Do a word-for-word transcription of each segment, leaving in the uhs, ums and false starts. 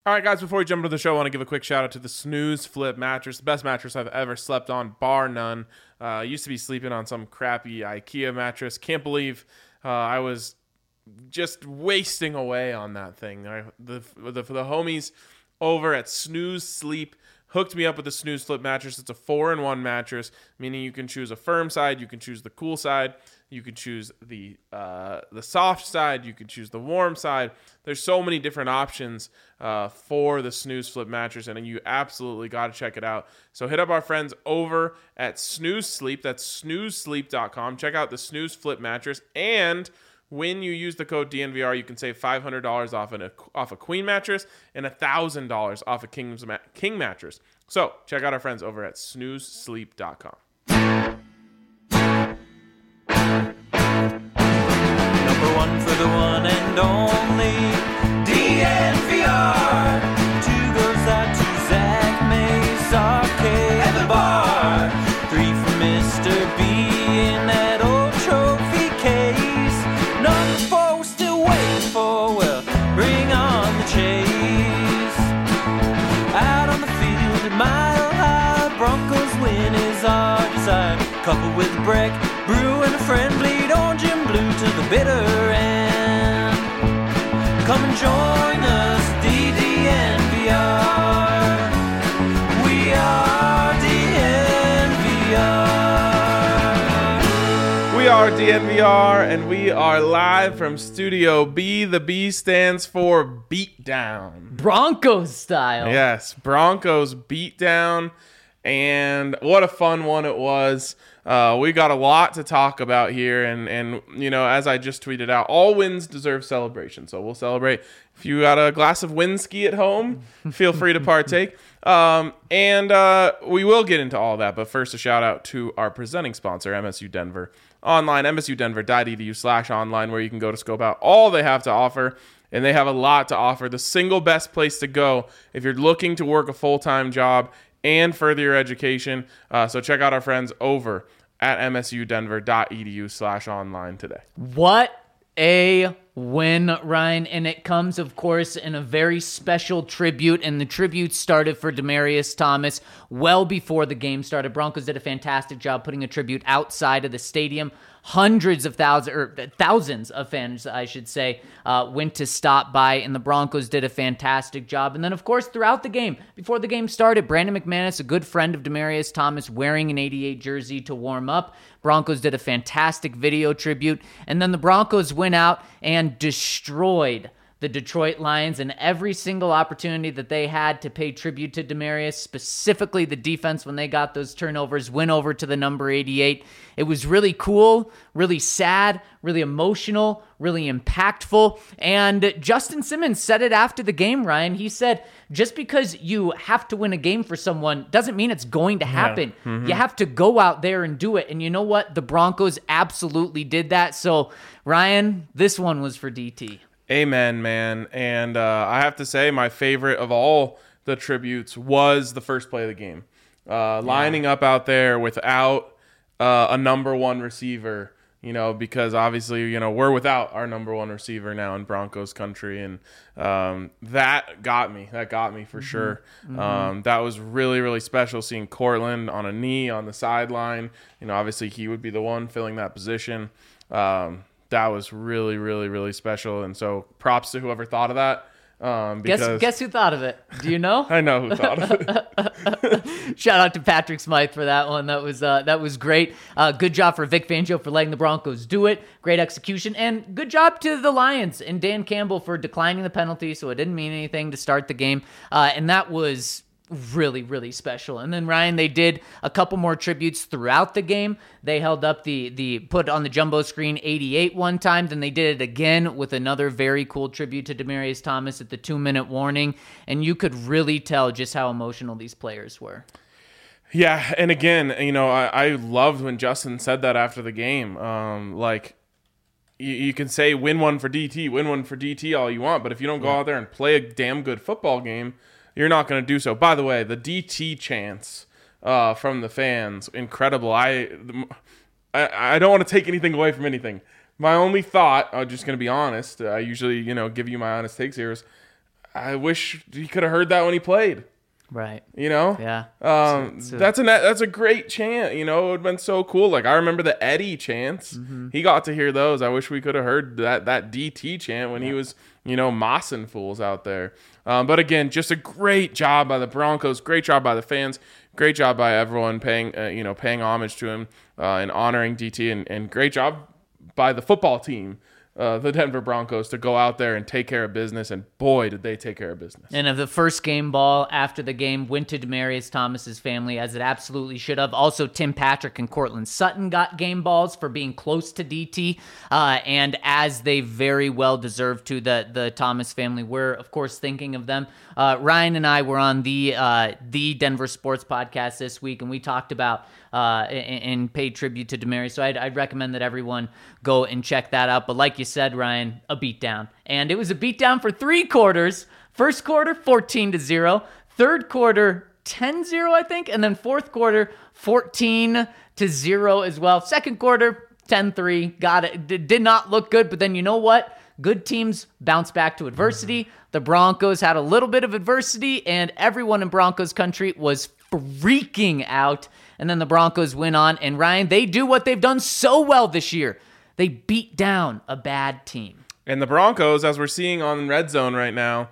All right, guys, before we jump into the show, I want to give a quick shout out to the Snooze Flip mattress, the best mattress I've ever slept on, bar none. Uh, I used to be sleeping on some crappy IKEA mattress. Can't believe uh, I was just wasting away on that thing. I, the, the, for the homies over at Snooze Sleep, hooked me up with the Snooze Flip mattress. It's a four in one mattress, meaning you can choose a firm side, you can choose the cool side, you can choose the uh, the soft side, you can choose the warm side. There's so many different options uh, for the Snooze Flip mattress, and you absolutely got to check it out. So hit up our friends over at Snooze Sleep. That's snooze sleep dot com. Check out the Snooze Flip mattress, and when you use the code D N V R, you can save five hundred dollars off, an, off a queen mattress and one thousand dollars off a King's, king mattress. So check out our friends over at snooze sleep dot com. Number one for the one and only D N V R. Two goes out to Zach Mays, Arcade, and the bar. Three for Mister B in that old trophy case. Number four we're still waiting for, well, bring on the chase. Out on the field at Mile High, Broncos win is our desire. Couple with Breck, Brew and a friend, bleed orange and blue to the bitter end. Come and join us, D D N V R. We are D N V R. We are D N V R, and we are live from Studio B. The B stands for Beatdown. Broncos style. Yes, Broncos Beatdown, and what a fun one it was. Uh, we got a lot to talk about here, and, and you know, as I just tweeted out, all wins deserve celebration, so we'll celebrate. If you got a glass of whiskey at home, feel free to partake. Um, and uh, we will get into all that, but first a shout out to our presenting sponsor, M S U Denver Online, m s u denver dot e d u slash online, where you can go to scope out all they have to offer, and they have a lot to offer. The single best place to go if you're looking to work a full-time job and further your education. Uh, so check out our friends over at m s u denver dot e d u slash online today. What a win, Ryan. And it comes, of course, in a very special tribute. And the tribute started for Demaryius Thomas well before the game started. Broncos did a fantastic job putting a tribute outside of the stadium. Hundreds of thousands, or thousands of fans, I should say, uh, went to stop by, and the Broncos did a fantastic job. And then, of course, throughout the game, before the game started, Brandon McManus, a good friend of Demaryius Thomas, wearing an eighty-eight jersey to warm up. Broncos did a fantastic video tribute, and then the Broncos went out and destroyed the Detroit Lions, and every single opportunity that they had to pay tribute to Demaryius, specifically the defense when they got those turnovers, went over to the number eighty-eight. It was really cool, really sad, really emotional, really impactful. And Justin Simmons said it after the game, Ryan. He said, just because you have to win a game for someone doesn't mean it's going to happen. Yeah. Mm-hmm. You have to go out there and do it. And you know what? The Broncos absolutely did that. So, Ryan, this one was for D T. Amen, man. And uh, I have to say, my favorite of all the tributes was the first play of the game. Uh, lining yeah. up out there without uh, a number one receiver, you know, because obviously, you know, we're without our number one receiver now in Broncos country. And um, that got me. That got me for mm-hmm. sure. Mm-hmm. Um, that was really, really special seeing Cortland on a knee on the sideline. You know, obviously he would be the one filling that position. Um That was really, really, really special. And so props to whoever thought of that. Um, because guess, guess who thought of it? Do you know? I know who thought of it. Shout out to Patrick Smythe for that one. That was uh, that was great. Uh, good job for Vic Fangio for letting the Broncos do it. Great execution. And good job to the Lions and Dan Campbell for declining the penalty, so it didn't mean anything to start the game. Uh, and that was really, really special. And then, Ryan, they did a couple more tributes throughout the game. They held up the, the put on the jumbo screen eighty-eight one time, then they did it again with another very cool tribute to Demaryius Thomas at the two-minute warning, and you could really tell just how emotional these players were. Yeah, and again, you know, I, I loved when Justin said that after the game. Um, like, you, you can say win one for D T, win one for D T all you want, but if you don't go yeah. out there and play a damn good football game, you're not going to do so. By the way, the D T chants uh, from the fans, incredible. I, I I don't want to take anything away from anything. My only thought, I'm just going to be honest, I usually, you know, give you my honest takes here, is I wish he could have heard that when he played. Right. You know? Yeah. Um, So- so- that's a that's a great chant. You know, it would have been so cool. Like I remember the Eddie chants. Mm-hmm. He got to hear those. I wish we could have heard that that D T chant when he was, you know, mossing fools out there. Um, but again, just a great job by the Broncos. Great job by the fans. Great job by everyone paying, uh, you know, paying homage to him uh, and honoring D T. And, and great job by the football team. Uh, the Denver Broncos to go out there and take care of business, and boy, did they take care of business. And of the first game ball after the game went to Demaryius Thomas's family, as it absolutely should have. Also, Tim Patrick and Cortland Sutton got game balls for being close to D T, uh, and as they very well deserve to. The the Thomas family, we're of course thinking of them. Uh, Ryan and I were on the uh, the Denver Sports Podcast this week, and we talked about uh, and, and paid tribute to Demaryius. So I'd, I'd recommend that everyone go and check that out. But like you said, Ryan, a beatdown. And it was a beatdown for three quarters. First quarter, fourteen to zero. Third quarter, ten zero, I think. And then fourth quarter, fourteen to zero as well. Second quarter, ten three. Got it. D- did not look good. But then you know what? Good teams bounce back to adversity. The Broncos had a little bit of adversity, and everyone in Broncos country was freaking out. And then the Broncos went on. And Ryan, they do what they've done so well this year. They beat down a bad team. And the Broncos, as we're seeing on Red Zone right now,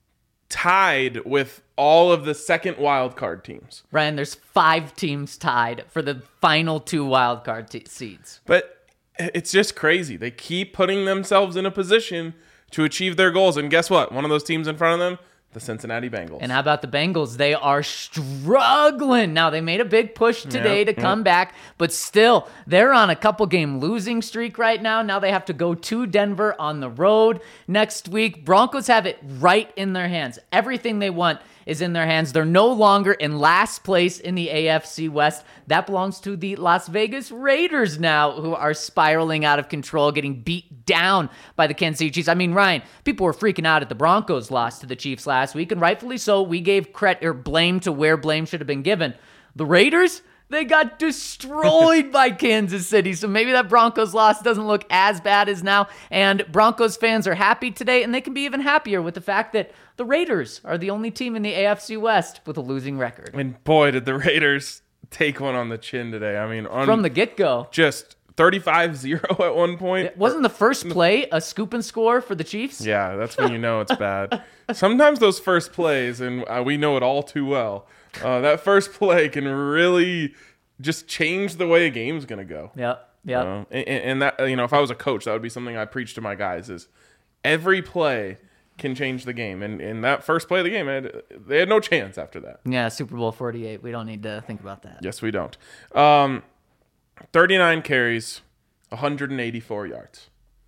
tied with all of the second wild card teams. Ryan, there's five teams tied for the final two wild card t- seeds. But it's just crazy. They keep putting themselves in a position to achieve their goals. And guess what? One of those teams in front of them, the Cincinnati Bengals. And how about the Bengals? They are struggling. Now, they made a big push today Yep, to come yep. back, but still, they're on a couple game losing streak right now. Now they have to go to Denver on the road next week. Broncos have it right in their hands. Everything they want is in their hands. They're no longer in last place in the A F C West. That belongs to the Las Vegas Raiders now, who are spiraling out of control, getting beat down by the Kansas City Chiefs. I mean, Ryan, people were freaking out at the Broncos' loss to the Chiefs last week, and rightfully so. We gave credit or blame to where blame should have been given. The Raiders, they got destroyed by Kansas City, so maybe that Broncos loss doesn't look as bad as now. And Broncos fans are happy today, and they can be even happier with the fact that the Raiders are the only team in the A F C West with a losing record. And boy, did the Raiders take one on the chin today. I mean, on From the get-go. just thirty-five zero at one point. Wasn't the first play a scoop and score for the Chiefs? Yeah, that's when you know it's bad. Sometimes those first plays, and uh, we know it all too well, uh, that first play can really just change the way a game's going to go. Yep, yep. Uh, and, and that, you know, if I was a coach, that would be something I preach to my guys is every play can change the game. And in that first play of the game, they had, they had no chance after that. Yeah, Super Bowl forty-eight. We don't need to think about that. Yes, we don't. Um, thirty-nine carries, one hundred eighty-four yards.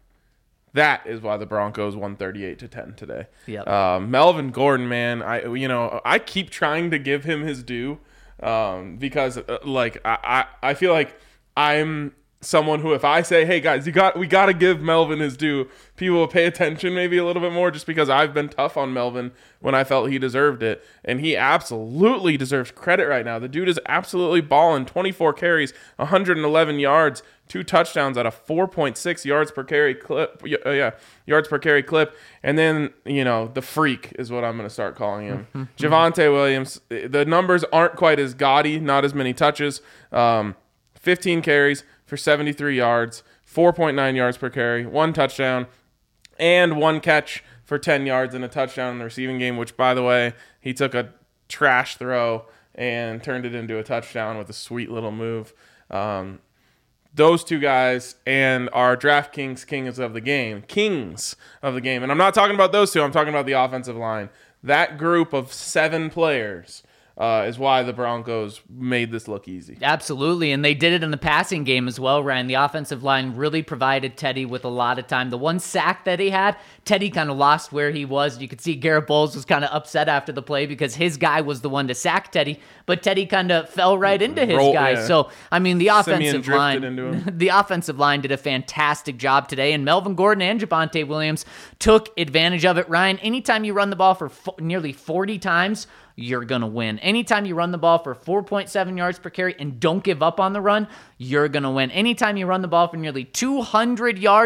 That is why the Broncos won thirty-eight to ten today. Yep. Um, Melvin Gordon, man, I you know I keep trying to give him his due um, because uh, like I, I I feel like I'm someone who, if I say, hey guys, you got we got to give Melvin his due, people will pay attention maybe a little bit more, just because I've been tough on Melvin when I felt he deserved it, and he absolutely deserves credit right now. The dude is absolutely balling. twenty-four carries, one hundred eleven yards, two touchdowns at a four point six yards per carry clip. Uh, yeah, yards per carry clip. And then, you know, the freak is what I'm going to start calling him. Javonte Williams. The numbers aren't quite as gaudy, not as many touches. Um, fifteen carries for seventy-three yards, four point nine yards per carry, one touchdown, and one catch for ten yards and a touchdown in the receiving game, which, by the way, he took a trash throw and turned it into a touchdown with a sweet little move. Um, those two guys and our DraftKings kings of the game, kings of the game. And I'm not talking about those two. I'm talking about the offensive line. That group of seven players Uh, is why the Broncos made this look easy. Absolutely, and they did it in the passing game as well, Ryan. The offensive line really provided Teddy with a lot of time. The one sack that he had, Teddy kind of lost where he was. You could see Garrett Bowles was kind of upset after the play because his guy was the one to sack Teddy, but Teddy kind of fell right into his Roll, guy. yeah. So, I mean, the offensive drifted line, into him. the offensive line did a fantastic job today, and Melvin Gordon and Javonte Williams took advantage of it. Ryan, anytime you run the ball for fo- nearly forty times, you're going to win. Anytime you run the ball for four point seven yards per carry and don't give up on the run, you're going to win. Anytime you run the ball for nearly two hundred yards,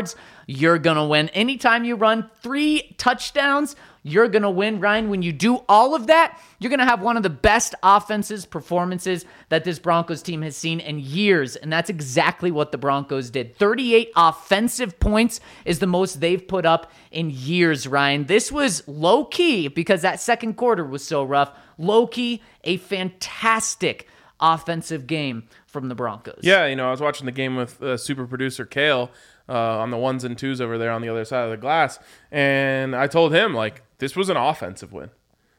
you're going to win. Anytime you run three touchdowns, you're going to win. Ryan, when you do all of that, you're going to have one of the best offenses performances that this Broncos team has seen in years, and that's exactly what the Broncos did. thirty-eight offensive points is the most they've put up in years, Ryan. This was low-key, because that second quarter was so rough, low-key, a fantastic offensive game from the Broncos. Yeah, you know, I was watching the game with uh, super producer Kale uh, on the ones and twos over there on the other side of the glass, and I told him, like, this was an offensive win.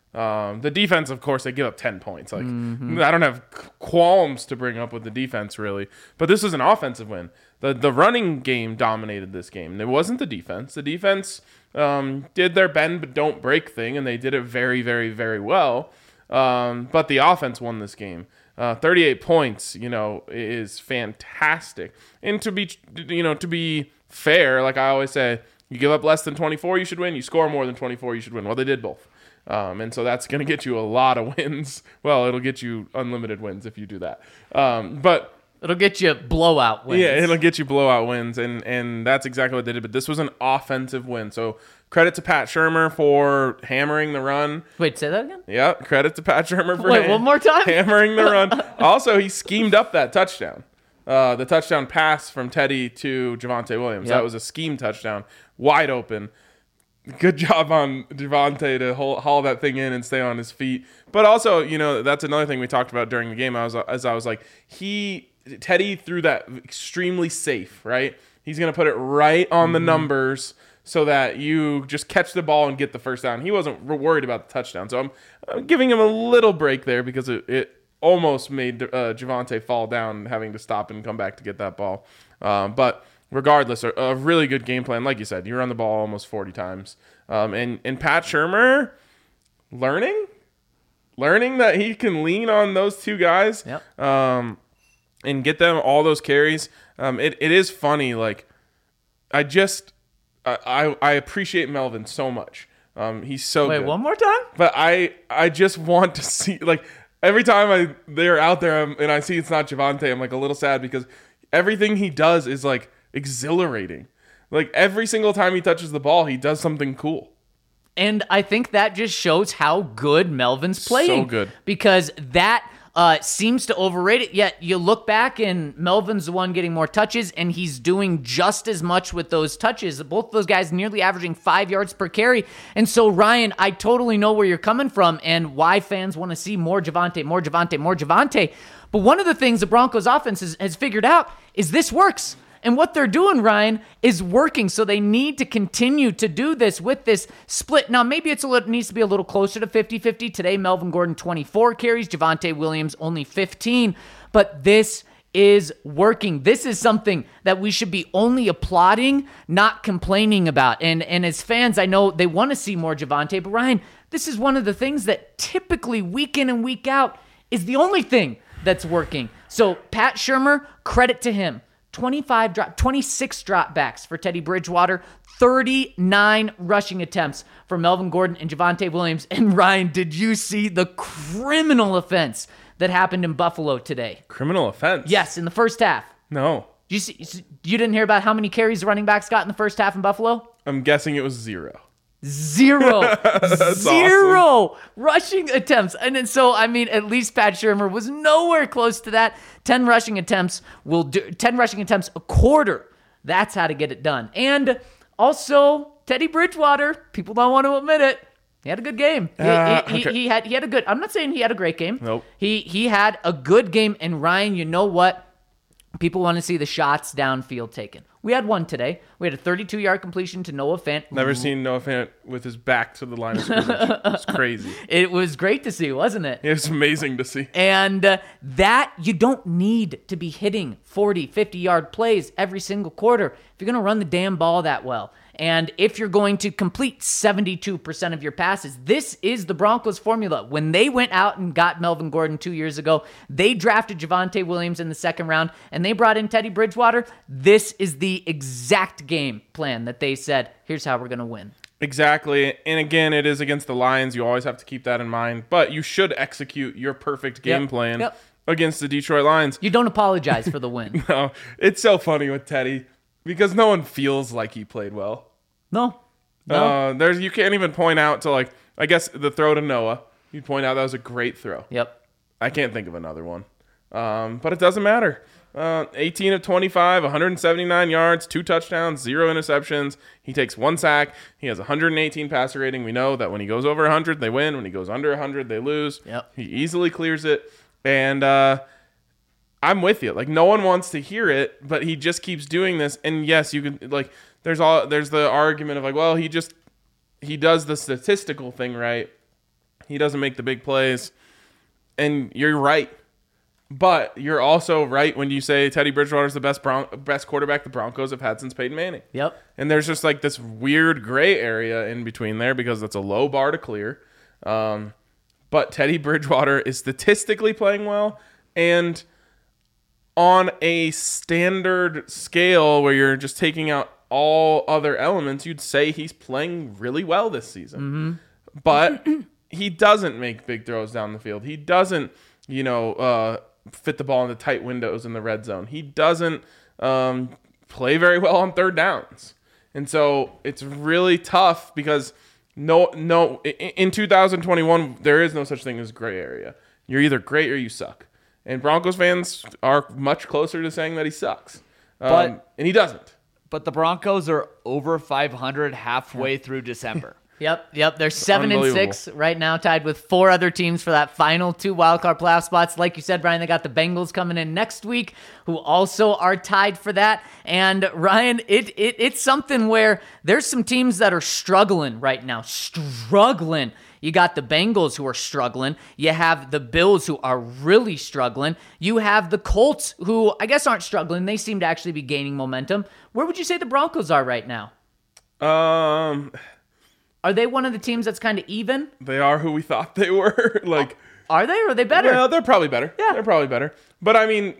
Um, the defense, of course, they give up ten points. Like, mm-hmm. I don't have qualms to bring up with the defense, really, but this was an offensive win. The the running game dominated this game. It wasn't the defense. The defense um, did their bend but don't break thing, and they did it very, very, very well. Um, but the offense won this game. Uh, thirty-eight points, you know, is fantastic. And to be, you know, to be fair, like I always say, you give up less than twenty-four, you should win. You score more than twenty-four, you should win. Well, they did both. Um, and so that's going to get you a lot of wins. Well, it'll get you unlimited wins if you do that. Um, but it'll get you blowout wins. Yeah, it'll get you blowout wins, and and that's exactly what they did. But this was an offensive win. So credit to Pat Shurmur for hammering the run. Wait, say that again? Yeah, credit to Pat Shurmur for Wait, one more time? hammering the run. Also, he schemed up that touchdown. Uh, the touchdown pass from Teddy to Javonte Williams. Yep. That was a scheme touchdown, wide open. Good job on Javonte to haul, haul that thing in and stay on his feet. But also, you know, that's another thing we talked about during the game. I was, as I was like, he Teddy threw that extremely safe, right? He's going to put it right on mm-hmm. the numbers so that you just catch the ball and get the first down. He wasn't worried about the touchdown. So I'm, I'm giving him a little break there because it, it almost made uh, Javonte fall down, having to stop and come back to get that ball. Um, but regardless, a, a really good game plan. Like you said, you run the ball almost forty times. Um, and, and Pat Shurmur learning, learning that he can lean on those two guys yep. um, and get them all those carries. Um, it, it is funny. Like, I just, I, I appreciate Melvin so much. Um, he's so Wait, good. one more time? But I, I just want to see, like, every time I they're out there and I see it's not Javonte, I'm like a little sad because everything he does is like exhilarating. Like every single time he touches the ball, he does something cool. And I think that just shows how good Melvin's playing. So good. Because that uh, seems to overrate it. Yet you look back and Melvin's the one getting more touches, and he's doing just as much with those touches. Both of those guys nearly averaging five yards per carry. And so, Ryan, I totally know where you're coming from and why fans want to see more Javonte, more Javonte, more Javonte. But one of the things the Broncos offense has, has figured out is this works. And what they're doing, Ryan, is working. So they need to continue to do this with this split. Now, maybe it's a little, it needs to be a little closer to fifty-fifty. Today, Melvin Gordon, twenty-four carries. Javonte Williams, only fifteen. But this is working. This is something that we should be only applauding, not complaining about. And, and as fans, I know they want to see more Javonte. But, Ryan, this is one of the things that typically week in and week out is the only thing that's working. So, Pat Shurmur, credit to him. twenty-five drop, twenty-six dropbacks for Teddy Bridgewater, thirty-nine rushing attempts for Melvin Gordon and Javonte Williams. And Ryan, did you see the criminal offense that happened in Buffalo today? Criminal offense? Yes, in the first half. No. Did you see? You didn't hear about how many carries the running backs got in the first half in Buffalo? I'm guessing it was zero. Zero. Zero awesome. rushing attempts. And then, so, I mean, at least Pat Shurmur was nowhere close to that. ten rushing attempts will do, ten rushing attempts a quarter. That's how to get it done. And also, Teddy Bridgewater, people don't want to admit it, he had a good game. He, Uh, he, okay. he, he had he had a good, I'm not saying he had a great game. Nope. He, he had a good game. And Ryan, you know what? People want to see the shots downfield taken. We had one today. We had a thirty-two-yard completion to Noah Fant. Never seen Noah Fant with his back to the line of scrimmage. It's crazy. It was great to see, wasn't it? It's amazing to see. And uh, that, you don't need to be hitting forty, fifty-yard plays every single quarter if you're going to run the damn ball that well. And if you're going to complete seventy-two percent of your passes, this is the Broncos formula. When they went out and got Melvin Gordon two years ago, they drafted Javonte Williams in the second round, and they brought in Teddy Bridgewater. This is the exact game plan that they said, here's how we're going to win. Exactly. And again, it is against the Lions. You always have to keep that in mind. But you should execute your perfect game Yep. plan Yep. against the Detroit Lions. You don't apologize for the win. No, it's so funny with Teddy. because no one feels like he played well. No. No. Uh, there's you can't even point out to like I guess the throw to Noah. You'd point out that was a great throw. Yep. I can't think of another one, um, but it doesn't matter. Uh, eighteen of twenty-five, one hundred seventy-nine yards, two touchdowns, zero interceptions. He takes one sack. He has one hundred eighteen passer rating. We know that when he goes over one hundred, they win. When he goes under one hundred, they lose. Yep. He easily clears it, and uh, I'm with you. Like no one wants to hear it, but he just keeps doing this. And yes, you can like. There's all there's the argument of like, well, he just he does the statistical thing right. He doesn't make the big plays, and you're right. But you're also right when you say Teddy Bridgewater is the best Bron- best quarterback the Broncos have had since Peyton Manning. Yep. And there's just like this weird gray area in between there because that's a low bar to clear. Um, but Teddy Bridgewater is statistically playing well, and on a standard scale where you're just taking out all other elements, you'd say he's playing really well this season. Mm-hmm. But he doesn't make big throws down the field. He doesn't, you know, uh, fit the ball into tight windows in the red zone. He doesn't um, play very well on third downs. And so it's really tough because no, no, in two thousand twenty-one, there is no such thing as gray area. You're either great or you suck. And Broncos fans are much closer to saying that he sucks. Um, But- and he doesn't. But the Broncos are over five hundred halfway through December. Yep, yep. They're seven and Unbelievable. six right now, tied with four other teams for that final two wildcard playoff spots. Like you said, Brian, they got the Bengals coming in next week, who also are tied for that. And Ryan, it, it it's something where there's some teams that are struggling right now, struggling. You got the Bengals who are struggling. You have the Bills who are really struggling. You have the Colts who I guess aren't struggling. They seem to actually be gaining momentum. Where would you say the Broncos are right now? Um, Are they one of the teams that's kind of even? they are who we thought they were. like, Are they or are they better? well, they're probably better. Yeah. They're probably better. But I mean,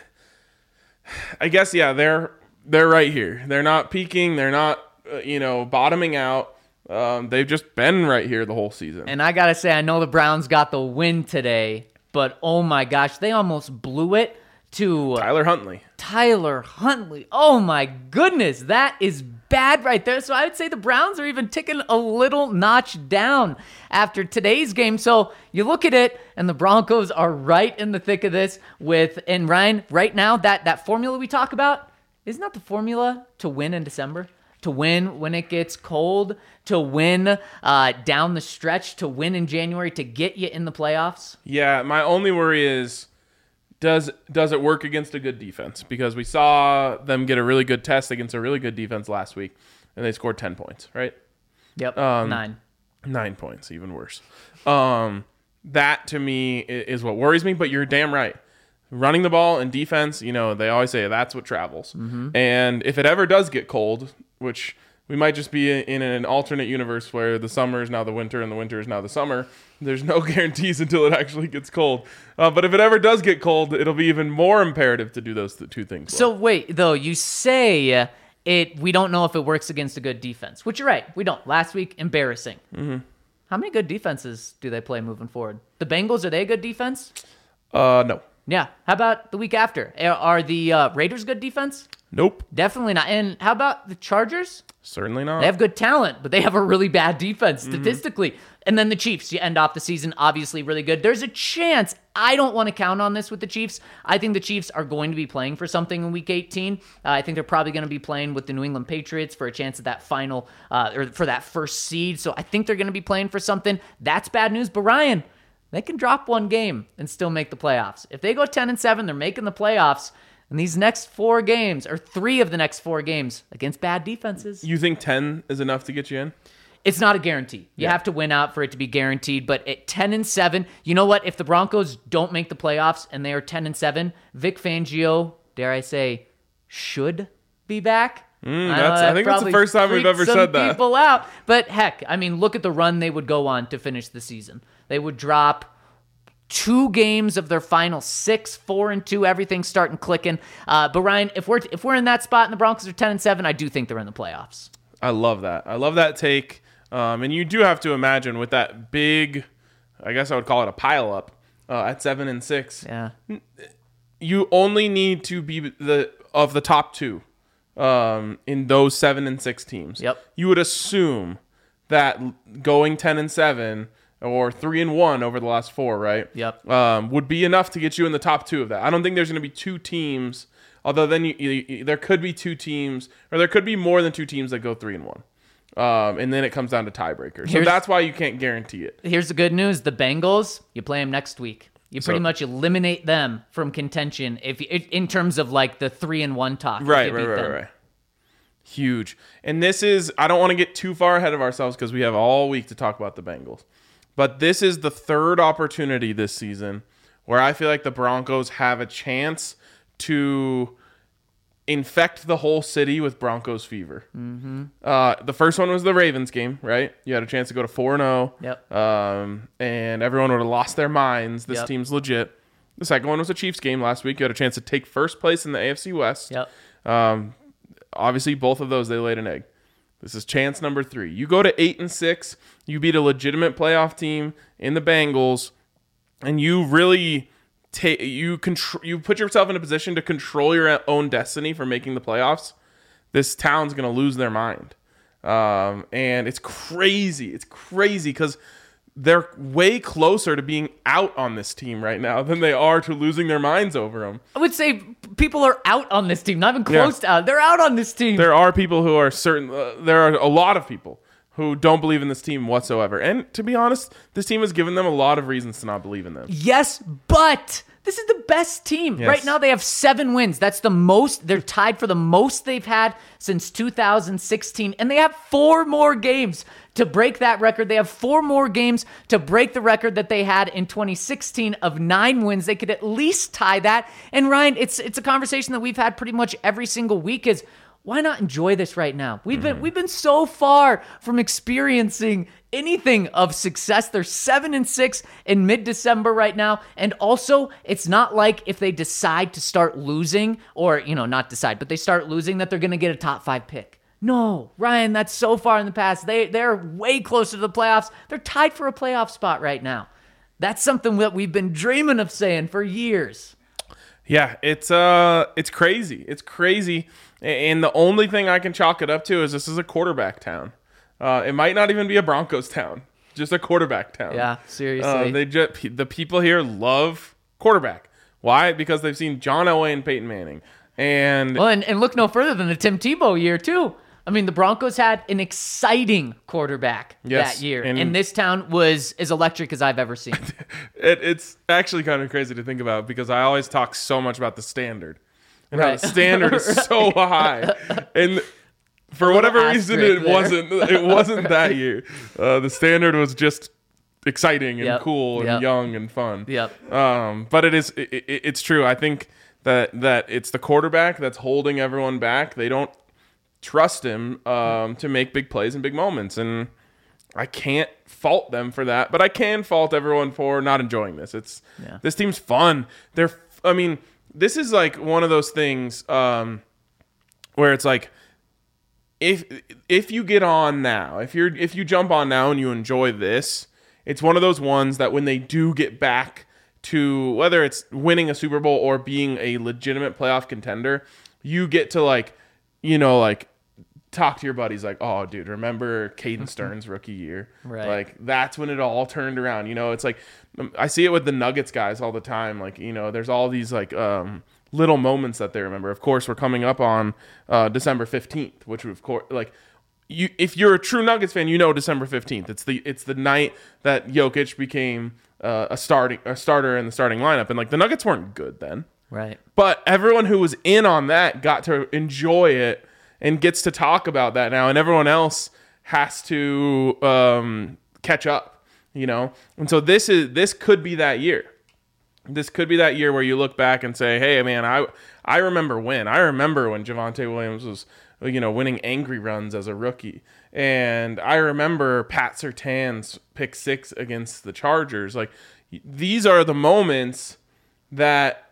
I guess yeah, they're they're right here. They're not peaking. They're not uh, you know bottoming out. Um, they've just been right here the whole season. And I got to say, I know the Browns got the win today, but oh my gosh, they almost blew it to Tyler Huntley. Tyler Huntley. Oh my goodness, that is bad right there. So I would say the Browns are even ticking a little notch down after today's game. So you look at it, and the Broncos are right in the thick of this with, and Ryan, right now, that, that formula we talk about, isn't that the formula to win in December? To win when it gets cold, to win uh, down the stretch, to win in January, to get you in the playoffs? Yeah, my only worry is does does it work against a good defense? Because we saw them get a really good test against a really good defense last week, and they scored ten points, right? Yep, Um, nine. Nine points, even worse. Um, that to me i- is what worries me. But you're damn right. Running the ball and defense, you know, they always say that's what travels. Mm-hmm. And if it ever does get cold, which we might just be in an alternate universe where the summer is now the winter and the winter is now the summer, there's no guarantees until it actually gets cold. Uh, but if it ever does get cold, it'll be even more imperative to do those th- two things well. So wait, though, you say it. We don't know if it works against a good defense, which you're right. We don't. Last week, embarrassing. Mm-hmm. How many good defenses do they play moving forward? The Bengals, are they a good defense? Uh, no. Yeah. How about the week after? Are- Are the uh, Raiders good defense? Nope. Definitely not. And how about the Chargers? Certainly not. They have good talent, but they have a really bad defense statistically. Mm-hmm. And then the Chiefs, you end off the season obviously really good. There's a chance. I don't want to count on this with the Chiefs. I think the Chiefs are going to be playing for something in Week eighteen. Uh, I think they're probably going to be playing with the New England Patriots for a chance at that final, uh, or for that first seed. So I think they're going to be playing for something. That's bad news. But Ryan, they can drop one game and still make the playoffs. If they go ten and seven, they're making the playoffs. And these next four games, or three of the next four games, against bad defenses. You think ten is enough to get you in? It's not a guarantee. You Yeah. have to win out for it to be guaranteed. But at ten and seven, you know what? If the Broncos don't make the playoffs and they are ten and seven, Vic Fangio, dare I say, should be back. Mm, know that's- I that think that's the probably first time we've freaked ever some said that. People out, but heck, I mean, look at the run they would go on to finish the season. They would drop two games of their final six, four and two, everything starting clicking. Uh, but Ryan, if we're if we're in that spot and the Broncos are ten and seven, I do think they're in the playoffs. I love that. I love that take. Um, and you do have to imagine with that big, I guess I would call it a pile up uh, at seven and six. Yeah. You only need to be the of the top two um, in those seven and six teams. Yep. You would assume that going ten and seven or three and one over the last four, right? Yep. Um, would be enough to get you in the top two of that. I don't think there's going to be two teams, although then you, you, you, there could be two teams, or there could be more than two teams that go three and one. Um, and then it comes down to tiebreakers. So Here's- that's why you can't guarantee it. Here's the good news: the Bengals, you play them next week. You pretty So- much eliminate them from contention if you, in terms of like the three and one talk. if Right, you right, beat right, them. right. Huge. And this is, I don't want to get too far ahead of ourselves because we have all week to talk about the Bengals. But this is the third opportunity this season where I feel like the Broncos have a chance to infect the whole city with Broncos fever. Mm-hmm. Uh, the first one was the Ravens game, right? You had a chance to go to four and oh. Yep. Um, and everyone would have lost their minds. This Yep. team's legit. The second one was the Chiefs game last week. You had a chance to take first place in the A F C West. Yep. Um, obviously, both of those, they laid an egg. This is chance number three. You go to eight and six. You beat a legitimate playoff team in the Bengals, and you really take you control. You put yourself in a position to control your own destiny for making the playoffs. This town's gonna lose their mind, um, and it's crazy. It's crazy because they're way closer to being out on this team right now than they are to losing their minds over them. I would say people are out on this team, not even close to out. They're out on this team. There are people who are certain. Uh, there are a lot of people who don't believe in this team whatsoever. And to be honest, this team has given them a lot of reasons to not believe in them. Yes, but this is the best team. Yes. Right now they have seven wins. That's the most. They're tied for the most they've had since two thousand sixteen. And they have four more games to break that record. They have four more games to break the record that they had in twenty sixteen of nine wins. They could at least tie that. And Ryan, it's it's a conversation that we've had pretty much every single week is, why not enjoy this right now? We've been we've been so far from experiencing anything of success. They're seven and six in mid-December right now, and also it's not like if they decide to start losing, or you know, not decide, but they start losing, that they're going to get a top five pick. No, Ryan, that's so far in the past. They they're way closer to the playoffs. They're tied for a playoff spot right now. That's something that we've been dreaming of saying for years. Yeah, it's uh, it's crazy. It's crazy. And the only thing I can chalk it up to is this is a quarterback town. Uh, it might not even be a Broncos town, just a quarterback town. Yeah, seriously. Uh, they just the people here love quarterback. Why? Because they've seen John Elway and Peyton Manning, and Well, and, and look no further than the Tim Tebow year, too. I mean, the Broncos had an exciting quarterback Yes, that year, and- and, this town was as electric as I've ever seen. it, it's actually kind of crazy to think about because I always talk so much about the standard and how Right. the standard is so high, and for whatever reason, asterisk it there. wasn't. It wasn't that year. Uh, the standard was just exciting and Yep, cool and yep. young and fun. Yep. Um, but it is. It, it, it's true. I think that that it's the quarterback that's holding everyone back. They don't trust him um, to make big plays and big moments, and I can't fault them for that. But I can fault everyone for not enjoying this. It's Yeah. this team's fun. They're. I mean, this is like one of those things um, where it's like. If if you get on now, if you're if you jump on now and you enjoy this, it's one of those ones that when they do get back to whether it's winning a Super Bowl or being a legitimate playoff contender, you get to like, you know, like talk to your buddies like, oh, dude, remember Caden Stern's rookie year? Right. Like that's when it all turned around. You know, it's like um, I see it with the Nuggets guys all the time. Like, you know, there's all these like um little moments that they remember. Of course, we're coming up on uh, December fifteenth, which of course, like you, if you're a true Nuggets fan, you know December fifteenth. It's the it's the night that Jokic became uh, a starting a starter in the starting lineup, and like the Nuggets weren't good then, Right. but everyone who was in on that got to enjoy it and gets to talk about that now, and everyone else has to um, catch up, you know. And so this is this could be that year. This could be that year where you look back and say, "Hey, man, I I remember when. I remember when Javonte Williams was, you know, winning angry runs as a rookie, and I remember Pat Surtain's pick six against the Chargers. Like, these are the moments that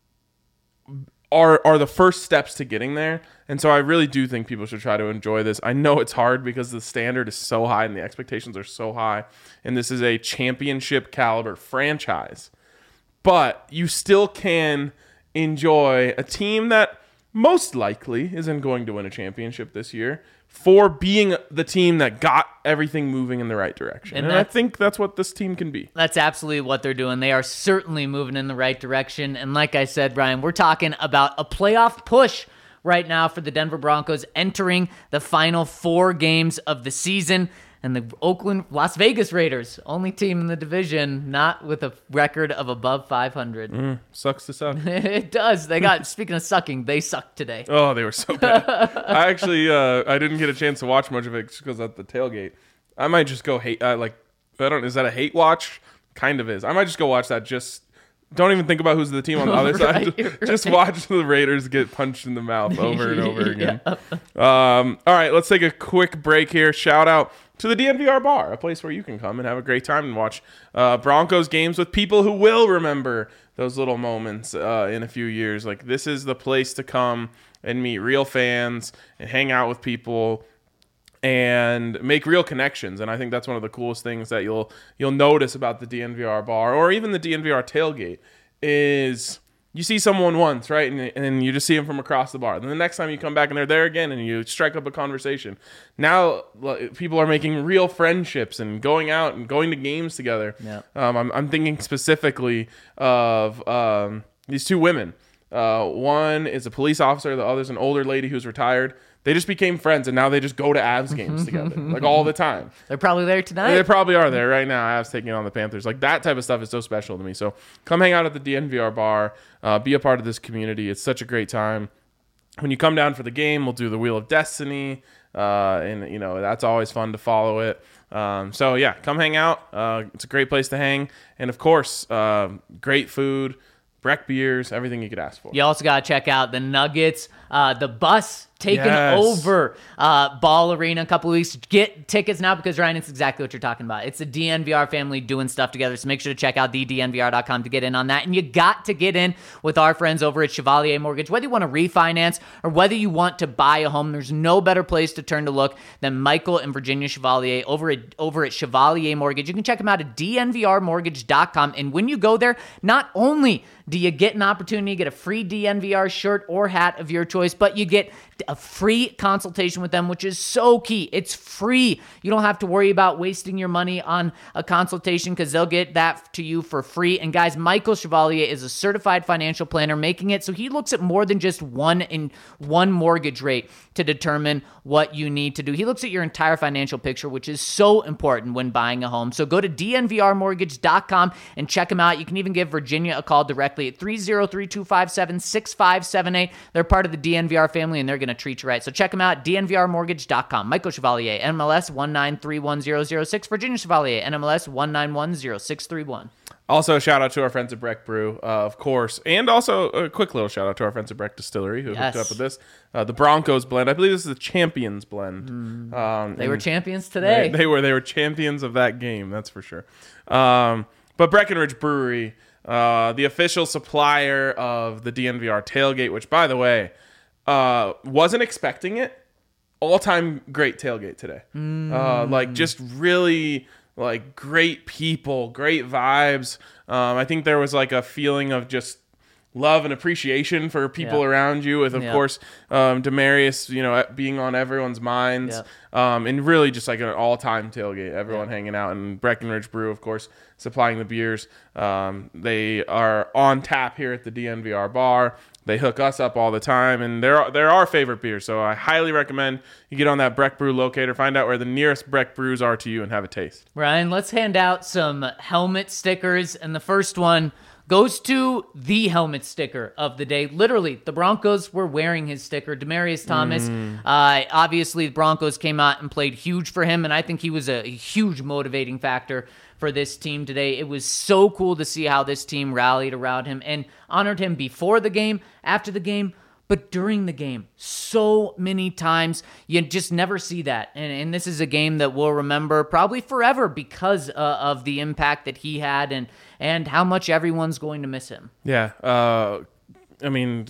are are the first steps to getting there. And so I really do think people should try to enjoy this. I know it's hard because the standard is so high and the expectations are so high, and this is a championship caliber franchise." But you still can enjoy a team that most likely isn't going to win a championship this year, for being the team that got everything moving in the right direction. And, and I think that's what this team can be. That's absolutely what they're doing. They are certainly moving in the right direction. And like I said, Brian, we're talking about a playoff push right now for the Denver Broncos, entering the final four games of the season. And the Oakland, Las Vegas Raiders, only team in the division not with a record of above five hundred. Mm, sucks to suck. It does. They got, speaking of sucking, they sucked today. Oh, they were so bad. I actually, uh, I didn't get a chance to watch much of it just because at the tailgate. I might just go hate, uh, like, I don't, is that a hate watch? Kind of is. I might just go watch that. Just don't even think about who's the team on the other right, side. right. Just watch the Raiders get punched in the mouth over and over again. Yeah. Um, all right, let's take a quick break here. Shout out to the D N V R Bar, a place where you can come and have a great time and watch uh, Broncos games with people who will remember those little moments uh, in a few years. Like, this is the place to come and meet real fans and hang out with people and make real connections. And I think that's one of the coolest things that you'll you'll notice about the D N V R Bar or even the D N V R tailgate is you see someone once, right? And, and you just see them from across the bar. Then the next time you come back and they're there again and you strike up a conversation. Now people are making real friendships and going out and going to games together. Yeah. Um, I'm, I'm thinking specifically of um, these two women. Uh, one is a police officer. The other's an older lady who's retired. They just became friends, and now they just go to Avs games together, like all the time. They're probably there tonight. They probably are there right now. Avs taking on the Panthers. Like, that type of stuff is so special to me. So come hang out at the D N V R Bar. Uh, be a part of this community. It's such a great time. When you come down for the game, we'll do the Wheel of Destiny, uh, and you know that's always fun to follow it. Um, so yeah, come hang out. Uh, it's a great place to hang, and of course, uh, great food. Breck beers, everything you could ask for. You also got to check out the Nuggets, uh, the bus taking Yes. over uh, Ball Arena a couple of weeks. Get tickets now because, Ryan, it's exactly what you're talking about. It's the D N V R family doing stuff together, so make sure to check out the D N V R dot com to get in on that. And you got to get in with our friends over at Chevalier Mortgage. Whether you want to refinance or whether you want to buy a home, there's no better place to turn to look than Michael and Virginia Chevalier over at, over at Chevalier Mortgage. You can check them out at D N V R mortgage dot com. And when you go there, not only do you get an opportunity to get a free D N V R shirt or hat of your choice, but you get a free consultation with them, which is so key. It's free. You don't have to worry about wasting your money on a consultation because they'll get that to you for free. And guys, Michael Chevalier is a certified financial planner, making it so he looks at more than just one in one mortgage rate to determine what you need to do. He looks at your entire financial picture, which is so important when buying a home. So go to D N V R mortgage dot com and check him out. You can even give Virginia a call directly at three oh three, two five seven, six five seven eight. They're part of the D N V R family, and they're going to treat you right. So check them out, D N V R mortgage dot com. Michael Chevalier, N M L S one nine three one zero zero six. Virginia Chevalier, N M L S one nine one zero six three one. Also, shout out to our friends at Breck Brew, uh, of course. And also, a quick little shout out to our friends at Breck Distillery who Yes. hooked up with this. Uh, the Broncos blend. I believe this is the Champions blend. Mm. Um, They were and champions today. They, they were they were champions of that game, that's for sure. Um, but Breckenridge Brewery, uh, the official supplier of the D N V R tailgate, which, by the way, uh, wasn't expecting it. All-time great tailgate today. Mm. Uh, like, just really... like great people, great vibes. Um, I think there was like a feeling of just love and appreciation for people Yeah. around you, with of Yeah. course um, Demarius, you know, being on everyone's minds, um, and really just like an all-time tailgate. Everyone Yeah. hanging out, and Breckenridge Brew, of course, supplying the beers. Um, they are on tap here at the D N V R Bar. They hook us up all the time, and they're they're our favorite beer. So I highly recommend you get on that Breck Brew locator, find out where the nearest Breck Brews are to you, and have a taste. Ryan, let's hand out some helmet stickers. And the first one goes to the helmet sticker of the day. Literally, the Broncos were wearing his sticker. Demarius Thomas, Mm. uh, obviously the Broncos came out and played huge for him, and I think he was a huge motivating factor for this team today. It was so cool to see how this team rallied around him and honored him before the game, after the game, but during the game. So many times you just never see that. And, and this is a game that we'll remember probably forever because uh, of the impact that he had and, and how much everyone's going to miss him. Yeah. Uh, I mean,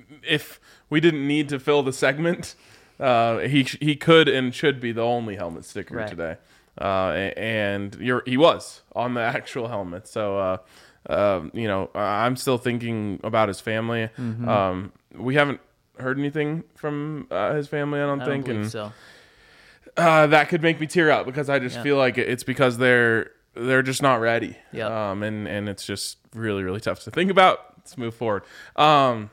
if we didn't need to fill the segment, uh, he he could and should be the only helmet sticker Right. today. Uh, and you're, he was on the actual helmet. So, uh, uh, you know, I'm still thinking about his family. Mm-hmm. Um, we haven't, heard anything from uh, his family. I don't I don't think, believe and so. uh, that could make me tear up because I just Yeah. feel like it's because they're they're just not ready. Yep. Um, and and it's just really really tough to think about. Let's move forward. Um,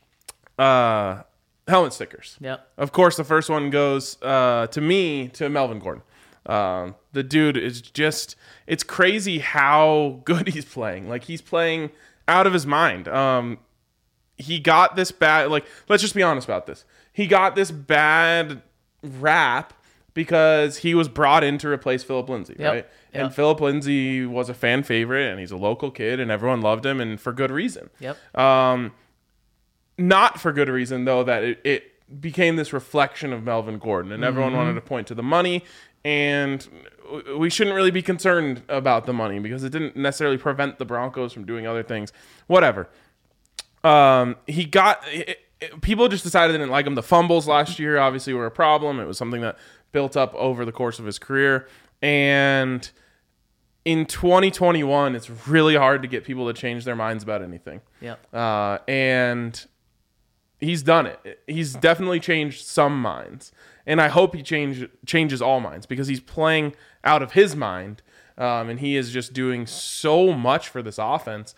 uh, helmet stickers. Yep. Of course, the first one goes uh, to me, to Melvin Gordon. Um, the dude is just, it's crazy how good he's playing. Like, he's playing out of his mind. Um, he got this bad, like, let's just be honest about this. He got this bad rap because he was brought in to replace Philip Lindsay, Yep. right? Yep. And Philip Lindsay was a fan favorite, and he's a local kid, and everyone loved him, and for good reason. Yep. Um, not for good reason, though, that it, it became this reflection of Melvin Gordon, and everyone Mm-hmm. wanted to point to the money, and w- we shouldn't really be concerned about the money because it didn't necessarily prevent the Broncos from doing other things. Whatever. Um, he got... It, it, people just decided they didn't like him. The fumbles last year obviously were a problem. It was something that built up over the course of his career, and in twenty twenty-one, it's really hard to get people to change their minds about anything. Yep. Uh, and he's done it. He's definitely changed some minds. And I hope he change, changes all minds because he's playing out of his mind. Um, and he is just doing so much for this offense.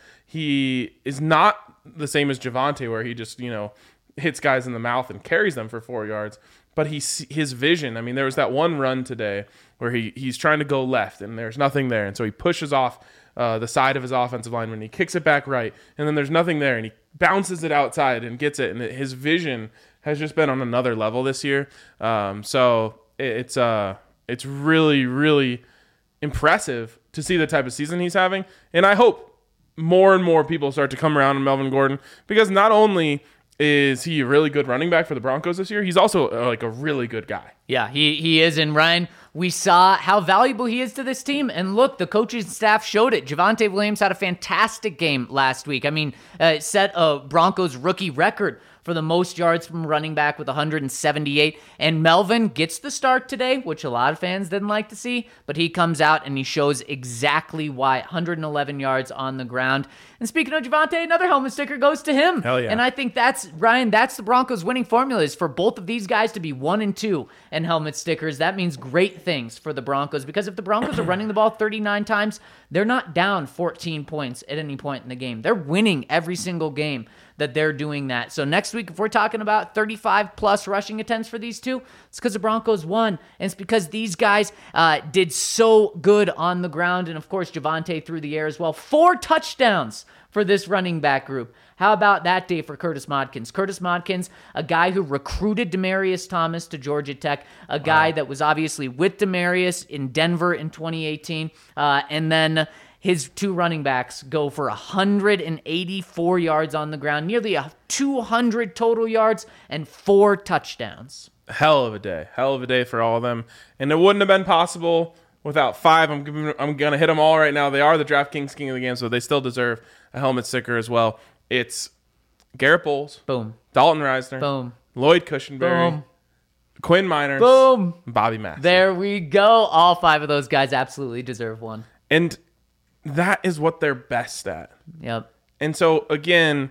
He is not the same as Javonte, where he just, you know, hits guys in the mouth and carries them for four yards. But he, his vision, I mean, there was that one run today where he, he's trying to go left and there's nothing there. And so he pushes off uh, the side of his offensive lineman. He kicks it back right. And then there's nothing there. And he bounces it outside and gets it. And his vision has just been on another level this year. Um, so it's uh, it's really, really impressive to see the type of season he's having. And I hope more and more people start to come around on Melvin Gordon because not only is he a really good running back for the Broncos this year, he's also uh, like a really good guy. Yeah, he, he is. And Ryan, we saw how valuable he is to this team. And look, the coaching staff showed it. Javonte Williams had a fantastic game last week. I mean, uh, set a Broncos rookie record for the most yards from running back with one hundred seventy-eight. And Melvin gets the start today, which a lot of fans didn't like to see, but he comes out and he shows exactly why. one hundred eleven yards on the ground. And speaking of Javonte, another helmet sticker goes to him. Hell yeah. And I think that's, Ryan, that's the Broncos' winning formula is for both of these guys to be one and two and helmet stickers. That means great things for the Broncos because if the Broncos are running the ball thirty-nine times, they're not down fourteen points at any point in the game. They're winning every single game that they're doing that. So next week, if we're talking about thirty-five plus rushing attempts for these two, it's because the Broncos won. And it's because these guys uh, did so good on the ground. And of course, Javonte through the air as well. Four touchdowns for this running back group. How about that day for Curtis Modkins? Curtis Modkins, a guy who recruited Demaryius Thomas to Georgia Tech, a guy wow. that was obviously with Demaryius in Denver in twenty eighteen, uh, and then his two running backs go for one hundred eighty-four yards on the ground, nearly two hundred total yards, and four touchdowns. Hell of a day. Hell of a day for all of them. And it wouldn't have been possible without five. I'm giving, I'm going to hit them all right now. They are the DraftKings king of the game, so they still deserve a helmet sticker as well. It's Garrett Bowles. Boom. Dalton Reisner. Boom. Lloyd Cushenberry. Boom. Quinn Miners. Boom. Bobby Massey. There we go. All five of those guys absolutely deserve one. And that is what they're best at. Yep. And so, again,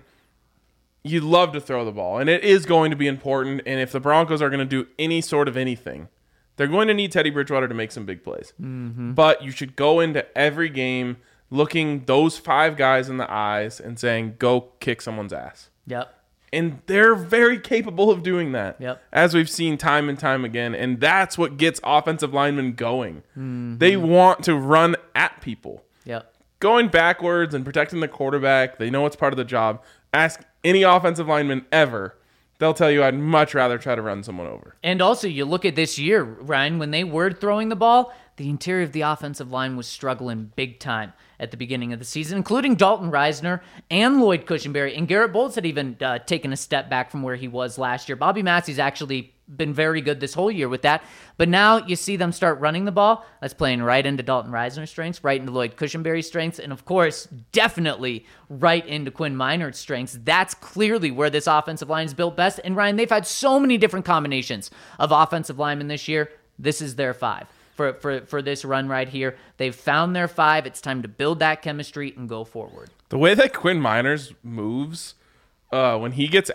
you love to throw the ball, and it is going to be important. And if the Broncos are going to do any sort of anything, they're going to need Teddy Bridgewater to make some big plays. Mm-hmm. But you should go into every game looking those five guys in the eyes and saying, go kick someone's ass. Yep. And they're very capable of doing that, yep. as we've seen time and time again. And that's what gets offensive linemen going. Mm-hmm. They want to run at people. Yep. Going backwards and protecting the quarterback, they know it's part of the job. Ask any offensive lineman ever. They'll tell you I'd much rather try to run someone over. And also, you look at this year, Ryan, when they were throwing the ball, the interior of the offensive line was struggling big time at the beginning of the season, including Dalton Reisner and Lloyd Cushenberry. And Garrett Bowles had even uh, taken a step back from where he was last year. Bobby Massey's actually been very good this whole year with that. But now you see them start running the ball. That's playing right into Dalton Reisner's strengths, right into Lloyd Cushenberry's strengths, and of course, definitely right into Quinn Minard's strengths. That's clearly where this offensive line is built best. And Ryan, they've had so many different combinations of offensive linemen this year. This is their five. For, for for this run right here. They've found their five. It's time to build that chemistry and go forward. The way that Quinn Miners moves, uh, when he gets out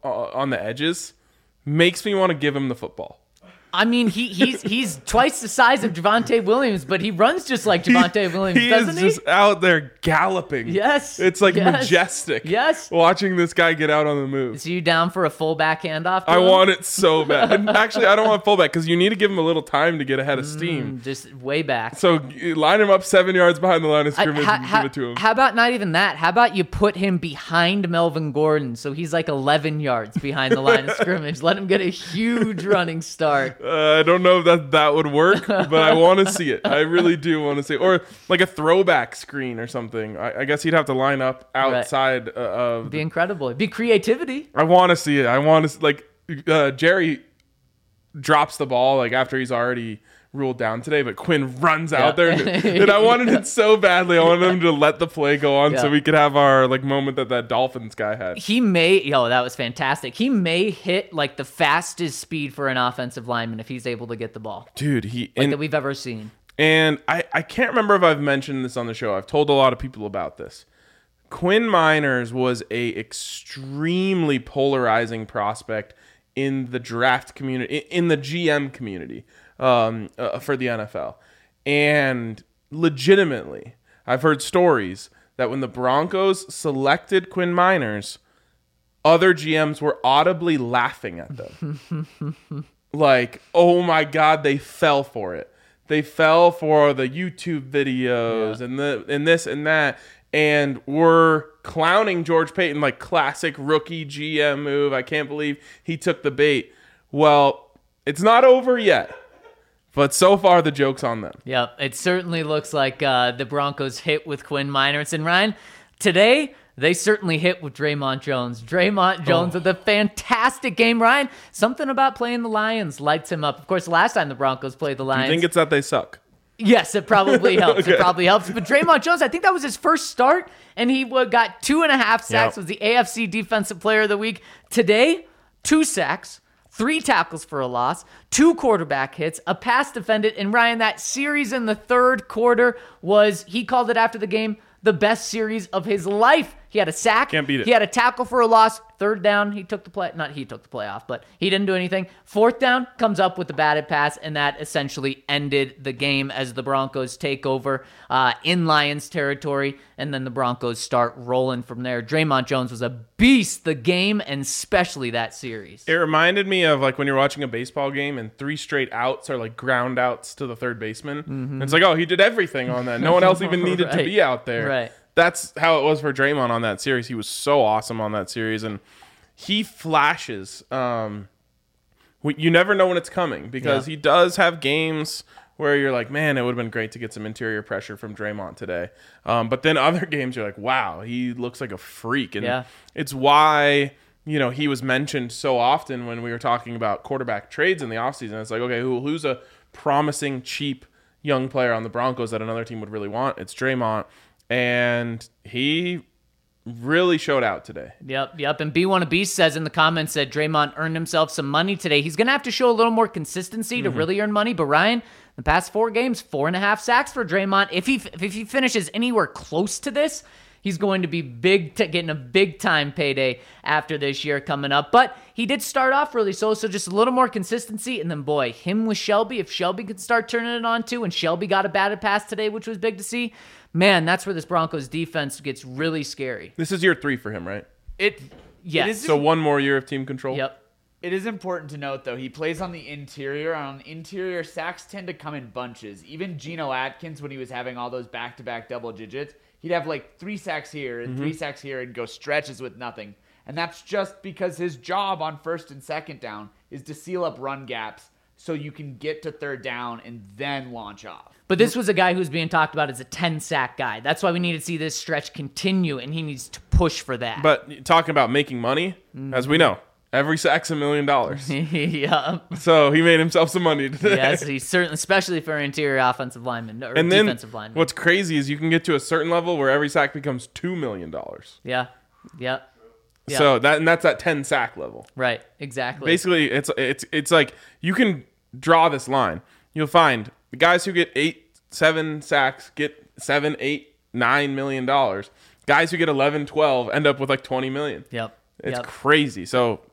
uh, on the edges makes me want to give him the football. I mean, he he's he's twice the size of Javonte Williams, but he runs just like Javonte Williams, he doesn't is he? just out there galloping. Yes. It's like yes, majestic. Yes. Watching this guy get out on the move. So you down for a fullback handoff? to I him? want it so bad. And actually, I don't want fullback because you need to give him a little time to get ahead of steam. Mm, just way back. So you line him up seven yards behind the line of I- scrimmage ha- and ha- give it to him. How about not even that? How about you put him behind Melvin Gordon so he's like eleven yards behind the line of scrimmage? Let him get a huge running start. Uh, I don't know if that that would work, but I want to see it. I really do want to see it. Or like a throwback screen or something. I, I guess he'd have to line up outside uh, of. It'd be incredible. It'd be creativity. I want to see it. I want to like uh, Jerry drops the ball like after he's already ruled down today, but Quinn runs out there, and, and I wanted it so badly. I wanted him to let the play go on Yeah. so we could have our like moment that that Dolphins guy had. He may, yo, that was fantastic. He may hit like the fastest speed for an offensive lineman if he's able to get the ball, Dude, he like and, that we've ever seen. and I I can't remember if I've mentioned this on the show. I've told a lot of people about this. Quinn Miners was a extremely polarizing prospect in the draft community, in the G M community, um, uh, for the N F L. And legitimately, I've heard stories that when the Broncos selected Quinn Miners, other G Ms were audibly laughing at them. Like, oh my God, they fell for it. They fell for the YouTube videos Yeah. and the and this and that, and were clowning George Payton like classic rookie G M move. I can't believe he took the bait. Well, it's not over yet, but so far the joke's on them. Yep, it certainly looks like uh, the Broncos hit with Quinn Miners. And Ryan, today they certainly hit with Draymond Jones. Draymond Jones Oh. with a fantastic game. Ryan, something about playing the Lions lights him up. Of course, last time the Broncos played the I Lions. think it's that they suck. Yes, it probably helps. Okay. It probably helps. But Draymond Jones, I think that was his first start, and he uh, got two and a half sacks. Yep. Was the A F C Defensive Player of the Week. Today, two sacks, three tackles for a loss, two quarterback hits, a pass defended. And Ryan, that series in the third quarter was, he called it after the game, the best series of his life. He had a sack. Can't beat it. He had a tackle for a loss. Third down, he took the play. Not he took the play off, but he didn't do anything. Fourth down, comes up with the batted pass, and that essentially ended the game as the Broncos take over uh, in Lions territory, and then the Broncos start rolling from there. Draymond Jones was a beast the game, and especially that series. It reminded me of like when you're watching a baseball game and three straight outs are like ground outs to the third baseman. And it's like, oh, he did everything on that. No one else even needed to Right. be out there. Right. That's how it was for Draymond on that series. He was so awesome on that series, and he flashes. Um, we- you never know when it's coming because Yeah. he does have games where you're like, man, it would have been great to get some interior pressure from Draymond today. Um, but then other games, you're like, wow, he looks like a freak. And Yeah. it's why, you know, he was mentioned so often when we were talking about quarterback trades in the offseason. It's like, okay, who, who's a promising, cheap young player on the Broncos that another team would really want? It's Draymond. And he really showed out today. Yep, yep. And B one a Beast says in the comments that Draymond earned himself some money today. He's going to have to show a little more consistency to really earn money. But Ryan, the past four games, four and a half sacks for Draymond. If he if he finishes anywhere close to this, he's going to be big, t- getting a big time payday after this year coming up. But he did start off really slow, so just a little more consistency. And then, boy, him with Shelby, if Shelby could start turning it on too, and Shelby got a batted pass today, which was big to see, man, that's where this Broncos defense gets really scary. This is year three for him, right? It Yes. It is, So one more year of team control. Yep. it is important to note, though, he plays on the interior. On interior, sacks tend to come in bunches. Even Geno Atkins, when he was having all those back-to-back double digits, he'd have like three sacks here and three sacks here and go stretches with nothing. And that's just because his job on first and second down is to seal up run gaps so you can get to third down and then launch off. But this was a guy who's being talked about as a ten-sack guy. That's why we need to see this stretch continue, and he needs to push for that. But talking about making money, as we know, every sack's a million dollars. yeah. So he made himself some money today. Yes, he's certainly, especially for an interior offensive lineman or And then defensive lineman. what's crazy is you can get to a certain level where every sack becomes two million dollars. Yeah. Yeah. Yeah. So that and that's at ten sack level. Right. Exactly. Basically, it's it's it's like you can draw this line. You'll find the guys who get eight, seven sacks get seven, eight, nine million dollars. Guys who get eleven, twelve end up with like twenty million. Yep. It's yep. crazy. So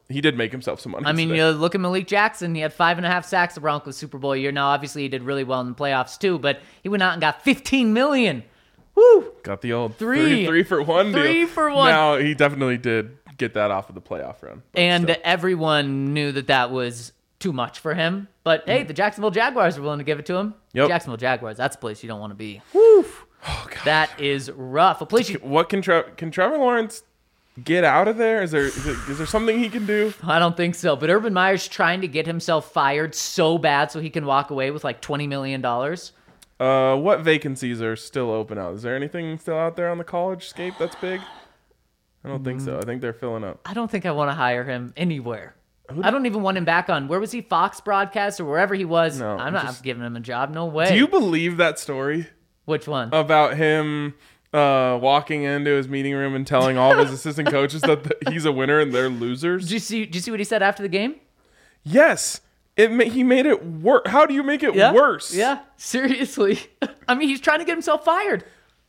he did make himself some money. I mean, today. you look at Malik Jackson. He had five and a half sacks the Broncos Super Bowl year. Now, obviously, he did really well in the playoffs too, but he went out and got fifteen million dollars. Woo! Got the old Three. three, three for one deal. Three for one. Now, he definitely did get that off of the playoff run. but And still. everyone knew that that was too much for him. But hey, the Jacksonville Jaguars were willing to give it to him. Yep. Jacksonville Jaguars, that's a place you don't want to be. Woo! Oh, God. That is rough. A place you, What can, Tre- can Trevor Lawrence get out of there? Is there is, it, is there something he can do? I don't think so. But Urban Meyer's trying to get himself fired so bad so he can walk away with like twenty million dollars. Uh, what vacancies are still open out? Is there anything still out there on the college scape that's big? I don't think so. I think they're filling up. I don't think I want to hire him anywhere. I don't even want him back on. Where was he? Fox broadcast or wherever he was? No, I'm not just- giving him a job. No way. Do you believe that story Which one? about him uh, walking into his meeting room and telling all of his assistant coaches that the, he's a winner and they're losers? Did you see? Did you see what he said after the game? Yes. It ma- he made it worse. How do you make it Yeah. worse? Yeah. Seriously. I mean, he's trying to get himself fired.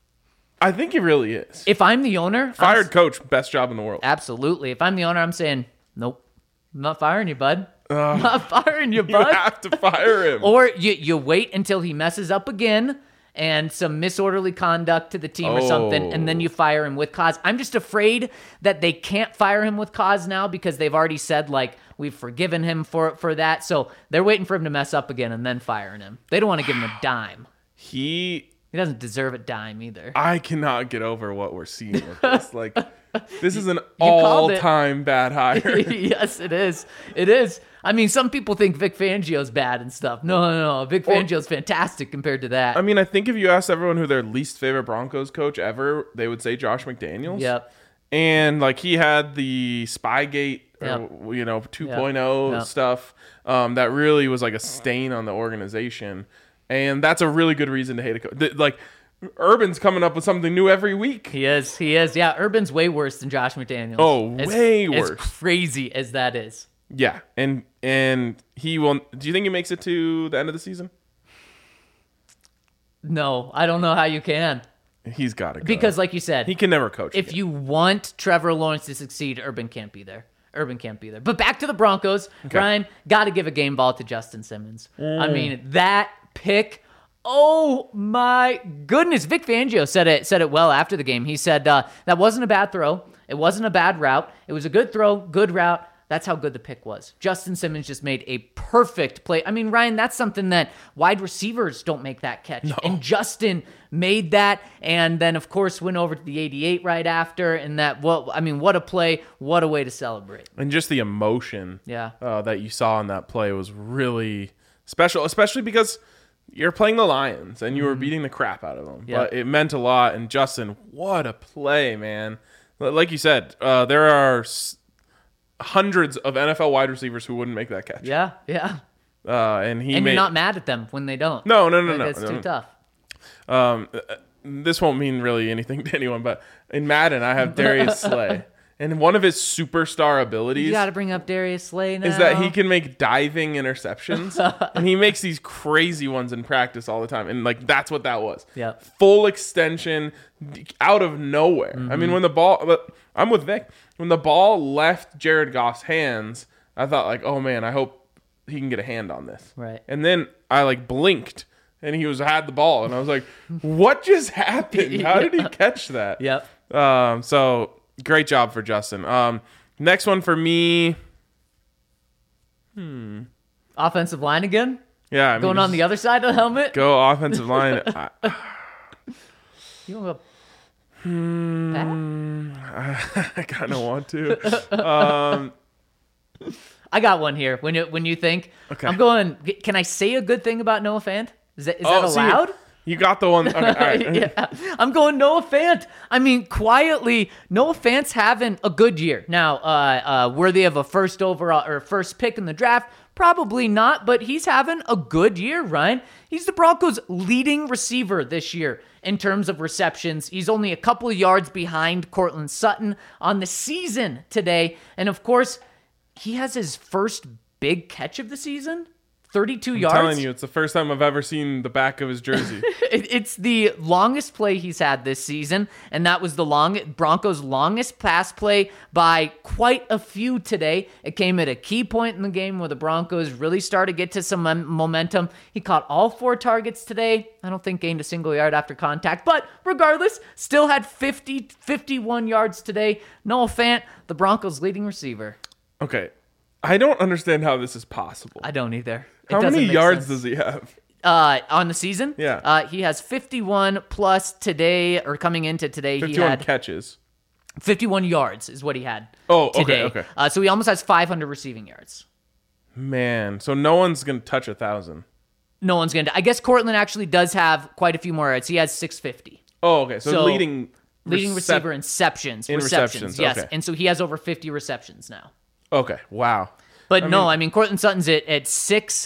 I think he really is. If I'm the owner, I'm Fired s- coach, best job in the world. absolutely. If I'm the owner, I'm saying, nope, I'm not firing you, bud. I'm not firing you, You bud. have to fire him. Or you you wait until he messes up again and some misorderly conduct to the team or something, and then you fire him with cause. I'm just afraid that they can't fire him with cause now because they've already said, like, we've forgiven him for for that. So they're waiting for him to mess up again and then firing him. They don't want to give him a dime. He He doesn't deserve a dime either. I cannot get over what we're seeing with this. Like, this is an called it. all-time bad hire. Yes, it is. It is. I mean, some people think Vic Fangio's bad and stuff. No, no, no. Vic Fangio's fantastic compared to that. I mean, I think if you asked everyone who their least favorite Broncos coach ever, they would say Josh McDaniels. Yep. And, like, he had the Spygate, Yep. or, you know, two point oh Yep. stuff um, that really was like a stain on the organization. And that's a really good reason to hate a coach. Th- Like, Urban's coming up with something new every week. He is. He is. Yeah, Urban's way worse than Josh McDaniels. Oh, As- way As worse. crazy as that is. Yeah. And and he will. Do you think he makes it to the end of the season? No, I don't know how you can. He's got to go. Because, like you said, he can never coach. if again. you want Trevor Lawrence to succeed, Urban can't be there. Urban can't be there. But back to the Broncos. Ryan, got to give a game ball to Justin Simmons. I mean, that pick. Oh my goodness! Vic Fangio said it said it well after the game. He said uh, that wasn't a bad throw. It wasn't a bad route. It was a good throw, good route. That's how good the pick was. Justin Simmons just made a perfect play. I mean, Ryan, that's something that wide receivers don't make that catch. No. And Justin made that, and then of course went over to the eighty-eight right after. And that, well, I mean, what a play! What a way to celebrate. and just the emotion, Yeah. uh, that you saw in that play was really special, especially because you're playing the Lions and you were beating the crap out of them. Yeah. But it meant a lot. And Justin, what a play, man! Like you said, uh, there are s- hundreds of N F L wide receivers who wouldn't make that catch. Yeah, yeah. Uh, and he And made you're not mad at them when they don't. no, no, no, Like, no. It's no, too no. tough. Um, uh, this won't mean really anything to anyone, but in Madden, I have Darius Slay, and one of his superstar abilities You got to bring up Darius Slay now. is that he can make diving interceptions, and he makes these crazy ones in practice all the time, and like that's what that was. Yep. Full extension d- out of nowhere. I mean, when the ball, but I'm with Vic. When the ball left Jared Goff's hands, I thought like, oh man, I hope he can get a hand on this. Right. And then I like blinked. And he was had the ball, and I was like, "What just happened? How did he catch that?" Yep. Um. So great job for Justin. Um. Next one for me. Offensive line again? Yeah. I mean, Going on the other side of the helmet? go offensive line. I, You want to go Pat? I kind of want to. Um. I got one here. When you, when you think, Okay. I'm going, can I say a good thing about Noah Fant? Is that, is that Oh, see, allowed? you got the one. Okay, all right. Yeah, I'm going Noah Fant. I mean, quietly, Noah Fant's having a good year. Now, uh, uh, worthy of a first overall or first pick in the draft? Probably not, but he's having a good year, Ryan. He's the Broncos' leading receiver this year in terms of receptions. He's only a couple of yards behind Cortland Sutton on the season today. And of course, he has his first big catch of the season. thirty-two I'm yards. telling you, it's the first time I've ever seen the back of his jersey. It- It's the longest play he's had this season, and that was the long Broncos' longest pass play by quite a few today. It came at a key point in the game where the Broncos really started to get to some mom- momentum. He caught all four targets today. I don't think gained a single yard after contact, but regardless, still had fifty, fifty-one yards today. Noah Fant, the Broncos' leading receiver. Okay. I don't understand how this is possible. I don't either. It How doesn't many make yards sense. does he have? Uh, on the season? Yeah. Uh, he has fifty-one plus today, or coming into today, he fifty-one had catches. fifty-one yards is what he had Oh, okay, today. okay. Uh, so he almost has five hundred receiving yards. Man, so no one's going to touch a thousand. No one's going to. I guess Cortland actually does have quite a few more yards. He has six hundred fifty. Oh, okay. So, So, leading Leading recep- receiver in receptions. In receptions, receptions, yes. okay. And so he has over fifty receptions now. Okay. Wow. But I no, mean- I mean, Cortland Sutton's at, at six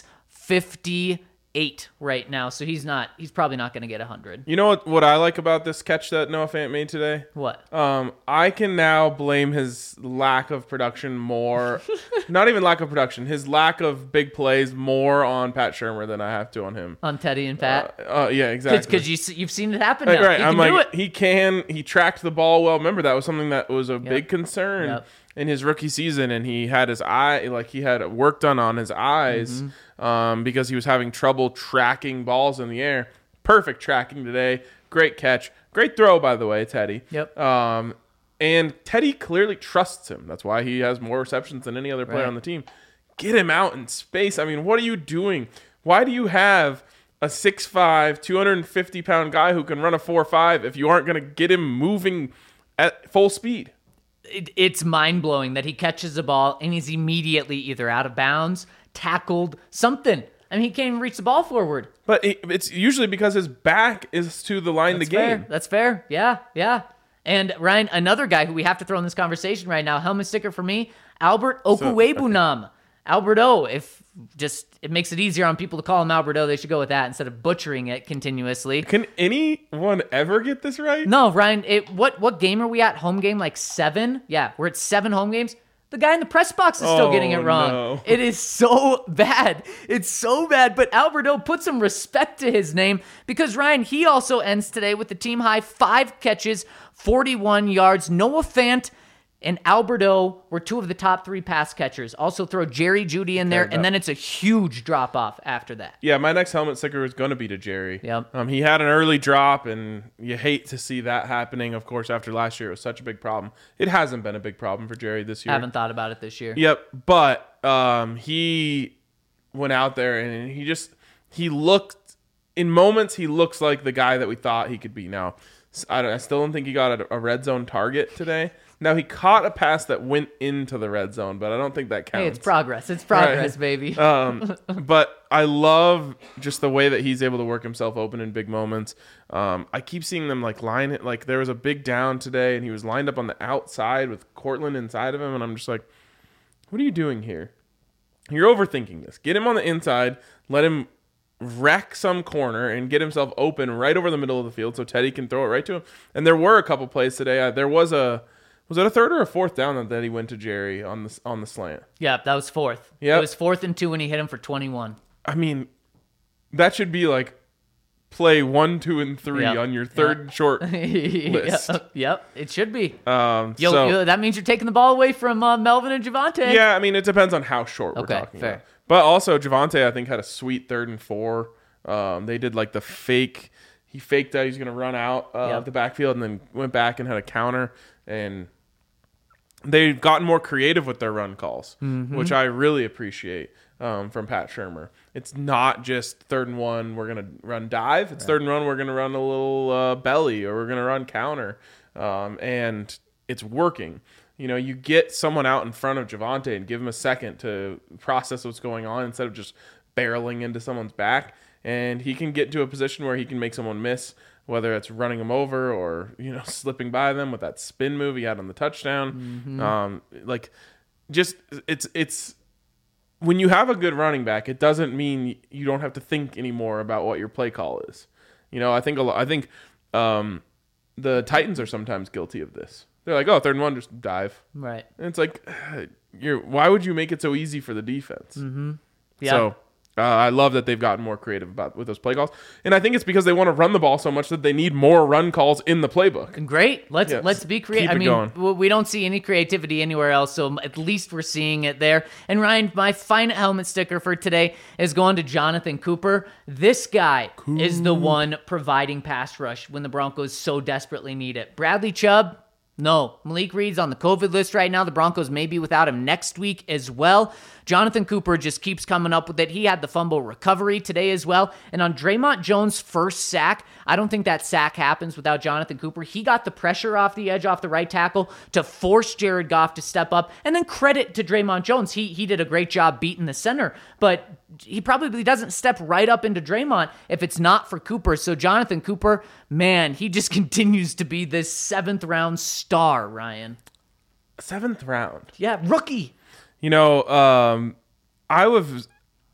fifty-eight right now. So he's not, he's probably not going to get one hundred. You know what, what I like about this catch that Noah Fant made today? What? Um, I can now blame his lack of production more, not even lack of production, his lack of big plays more on Pat Shurmur than I have to on him. On Teddy and Pat? Uh, yeah, exactly. Because you, you've seen it happen Right, now. right. He I'm can do like, it. he can, he tracked the ball well. Remember, that was something that was a big concern Yep. in his rookie season, and he had his eye, like he had work done on his eyes Mm-hmm. um, because he was having trouble tracking balls in the air. Perfect tracking today. Great catch. Great throw, by the way, Teddy. Yep. Um, and Teddy clearly trusts him. That's why he has more receptions than any other player Right. on the team. Get him out in space. I mean, what are you doing? Why do you have a six five, two hundred fifty pound guy who can run a four five if you aren't going to get him moving at full speed? It, it's mind-blowing that he catches the ball and he's immediately either out of bounds, tackled, something. I mean, he can't even reach the ball forward. But it, it's usually because his back is to the line of the That's game. fair. That's fair. Yeah, yeah. And Ryan, another guy who we have to throw in this conversation right now, helmet sticker for me, Albert Okwuegbunam. Albert O, if just it makes it easier on people to call him Albert O, they should go with that instead of butchering it continuously. Can anyone ever get this right? No, Ryan, it, what what game are we at? Home game like seven? Yeah, we're at seven home games. The guy in the press box is still Oh, getting it wrong. no. It is so bad. It's so bad. But Alberto put some respect to his name because, Ryan, he also ends today with the team high five catches, forty-one yards. Noah Fant and Alberto were two of the top three pass catchers. Also throw Jerry Jeudy in there, that- and then it's a huge drop off after that. Yeah, my next helmet sticker is going to be to Jerry. Yep. Um, he had an early drop, and you hate to see that happening. Of course, after last year, it was such a big problem. It hasn't been a big problem for Jerry this year. Haven't thought about it this year. Yep, but um, he went out there and he just he looked in moments. He looks like the guy that we thought he could be. Now, I, don't, I still don't think he got a, a red zone target today. Now he caught a pass that went into the red zone, but I don't think that counts. Hey, it's progress. It's progress, Right. baby. um, but I love just the way that he's able to work himself open in big moments. Um, I keep seeing them like line it. Like there was a big down today, and he was lined up on the outside with Cortland inside of him, and I'm just like, what are you doing here? You're overthinking this. Get him on the inside. Let him wreck some corner and get himself open right over the middle of the field so Teddy can throw it right to him. And there were a couple plays today. Uh, there was a was it a third or a fourth down that, that he went to Jerry on the on the slant? Yeah, that was fourth. Yep. It was fourth and two when he hit him for twenty-one. I mean, that should be like play one, two, and three Yep. on your third short list. Yep, yep, it should be. Um, Yo, so, yo, that means you're taking the ball away from uh, Melvin and Javante. yeah, I mean, it depends on how short Okay, we're talking fair. about. But also, Javante, I think, had a sweet third and four. Um, they did like the fake. He faked that he's going to run out uh, Yep. of the backfield and then went back and had a counter. And they've gotten more creative with their run calls, Mm-hmm. which I really appreciate um, from Pat Shurmur. It's not just third and one, we're going to run dive. It's third and one, we're going to run a little uh, belly, or we're going to run counter. Um, and it's working. You know, you get someone out in front of Javante and give him a second to process what's going on instead of just barreling into someone's back. And he can get to a position where he can make someone miss, whether it's running them over or, you know, slipping by them with that spin move he had on the touchdown. Mm-hmm. Um, like, just it's it's when you have a good running back, it doesn't mean you don't have to think anymore about what your play call is. You know, I think a lot, I think um, the Titans are sometimes guilty of this. They're like, oh, third and one, just dive. Right. And it's like, you're why would you make it so easy for the defense? Mm-hmm. Yeah. So Uh, I love that they've gotten more creative about with those play calls, and I think it's because they want to run the ball so much that they need more run calls in the playbook. Great. Let's Yes. let's be creative. Keep I it mean, going. w- we don't see any creativity anywhere else, so at least we're seeing it there. And Ryan, my final helmet sticker for today is going to Jonathan Cooper. This guy is the one providing pass rush when the Broncos so desperately need it. Bradley Chubb. No. Malik Reed's on the COVID list right now. The Broncos may be without him next week as well. Jonathan Cooper just keeps coming up with it. He had the fumble recovery today as well. And on Draymond Jones' first sack, I don't think that sack happens without Jonathan Cooper. He got the pressure off the edge, off the right tackle to force Jared Goff to step up. And then credit to Draymond Jones. He, he did a great job beating the center. But he probably doesn't step right up into Draymond if it's not for Cooper. So Jonathan Cooper, man, he just continues to be this seventh round star, Ryan. Seventh round. Yeah, rookie. You know, um, I was.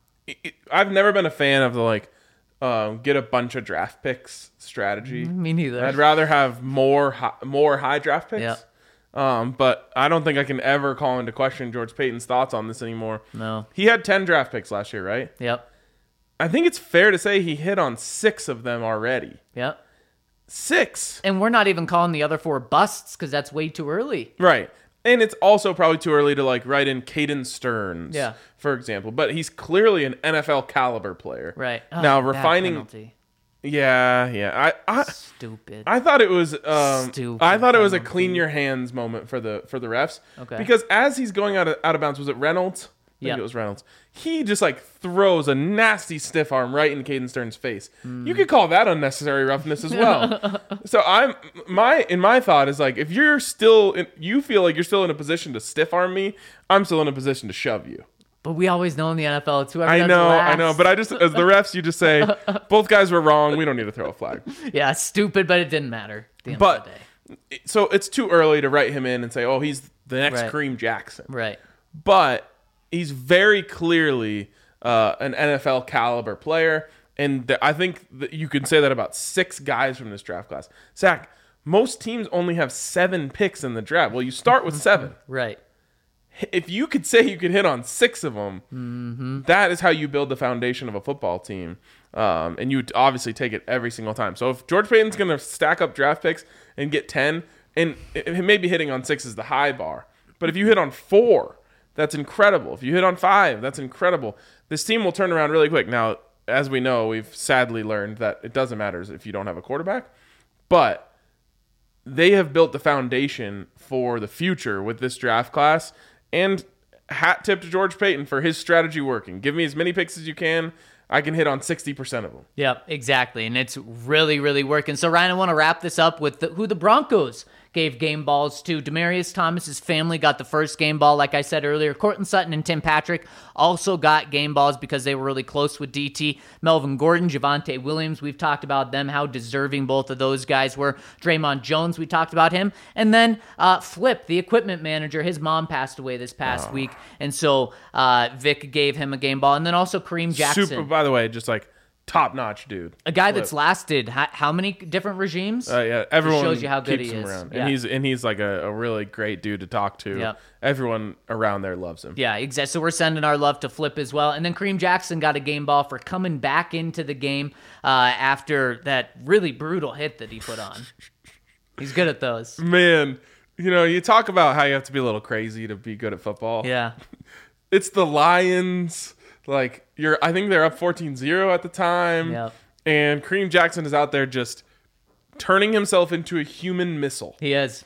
I've never been a fan of the like um, get a bunch of draft picks strategy. Me neither. I'd rather have more high, more high draft picks. Yeah. Um, but I don't think I can ever call into question George Payton's thoughts on this anymore. No. He had ten draft picks last year, right? Yep. I think it's fair to say he hit on six of them already. Yep. Six. And we're not even calling the other four busts because that's way too early. Right. And it's also probably too early to like write in Caden Stearns, Yeah. for example. But he's clearly an N F L caliber player. Right. Oh, Now that refining. penalty. Yeah, yeah. I, I Stupid. I thought it was um Stupid I thought it was a penalty. clean your hands moment for the for the refs. Okay. Because as he's going out of out of bounds, was it Reynolds? I think Yeah. it was Reynolds. He just like throws a nasty stiff arm right in Caden Stearns' face. Hmm. You could call that unnecessary roughness as well. So I'm my in my thought is like if you're still in, you feel like you're still in a position to stiff arm me, I'm still in a position to shove you. But we always know in the N F L, it's whoever I does know, last. I know, but I just as the refs, you just say both guys were wrong. We don't need to throw a flag. Yeah, stupid, but it didn't matter at the end But of the day. so it's too early to write him in and say, oh, he's the next Right. Kareem Jackson. Right. But he's very clearly uh, an N F L caliber player. And th- I think that you can say that about six guys from this draft class. Zach, most teams only have seven picks in the draft. Well, you start with seven. Right. If you could say you could hit on six of them, Mm-hmm. that is how you build the foundation of a football team. Um, and you obviously take it every single time. So if George Payton's going to stack up draft picks and get ten, and it, it maybe hitting on six is the high bar. But if you hit on four, that's incredible. If you hit on five, that's incredible. This team will turn around really quick. Now, as we know, we've sadly learned that it doesn't matter if you don't have a quarterback. But they have built the foundation for the future with this draft class. And hat tip to George Payton for his strategy working. Give me as many picks as you can. I can hit on sixty percent of them. Yep, exactly. And it's really, really working. So, Ryan, I want to wrap this up with the, who the Broncos gave game balls to. Demaryius Thomas's family got the first game ball, like I said earlier. Courtland Sutton and Tim Patrick also got game balls because they were really close with D T. Melvin Gordon, Javonte Williams, we've talked about them, how deserving both of those guys were. Draymond Jones, we talked about him. And then uh, Flip, the equipment manager, his mom passed away this past Oh. week. And so uh, Vic gave him a game ball. And then also Kareem Jackson. Super, by the way, just like top-notch dude. A guy Flip. that's lasted how, how many different regimes? Uh, yeah, everyone shows you how good keeps he him is. around, Yeah. and he's and he's like a, a really great dude to talk to. Yep. Everyone around there loves him. Yeah, exactly. So we're sending our love to Flip as well. And then Kareem Jackson got a game ball for coming back into the game uh, after that really brutal hit that he put on. He's good at those. Man, you know, you talk about how you have to be a little crazy to be good at football. Yeah. It's the Lions. Like you're, I think they're up fourteen zero at the time. Yep. And Kareem Jackson is out there just turning himself into a human missile. He is.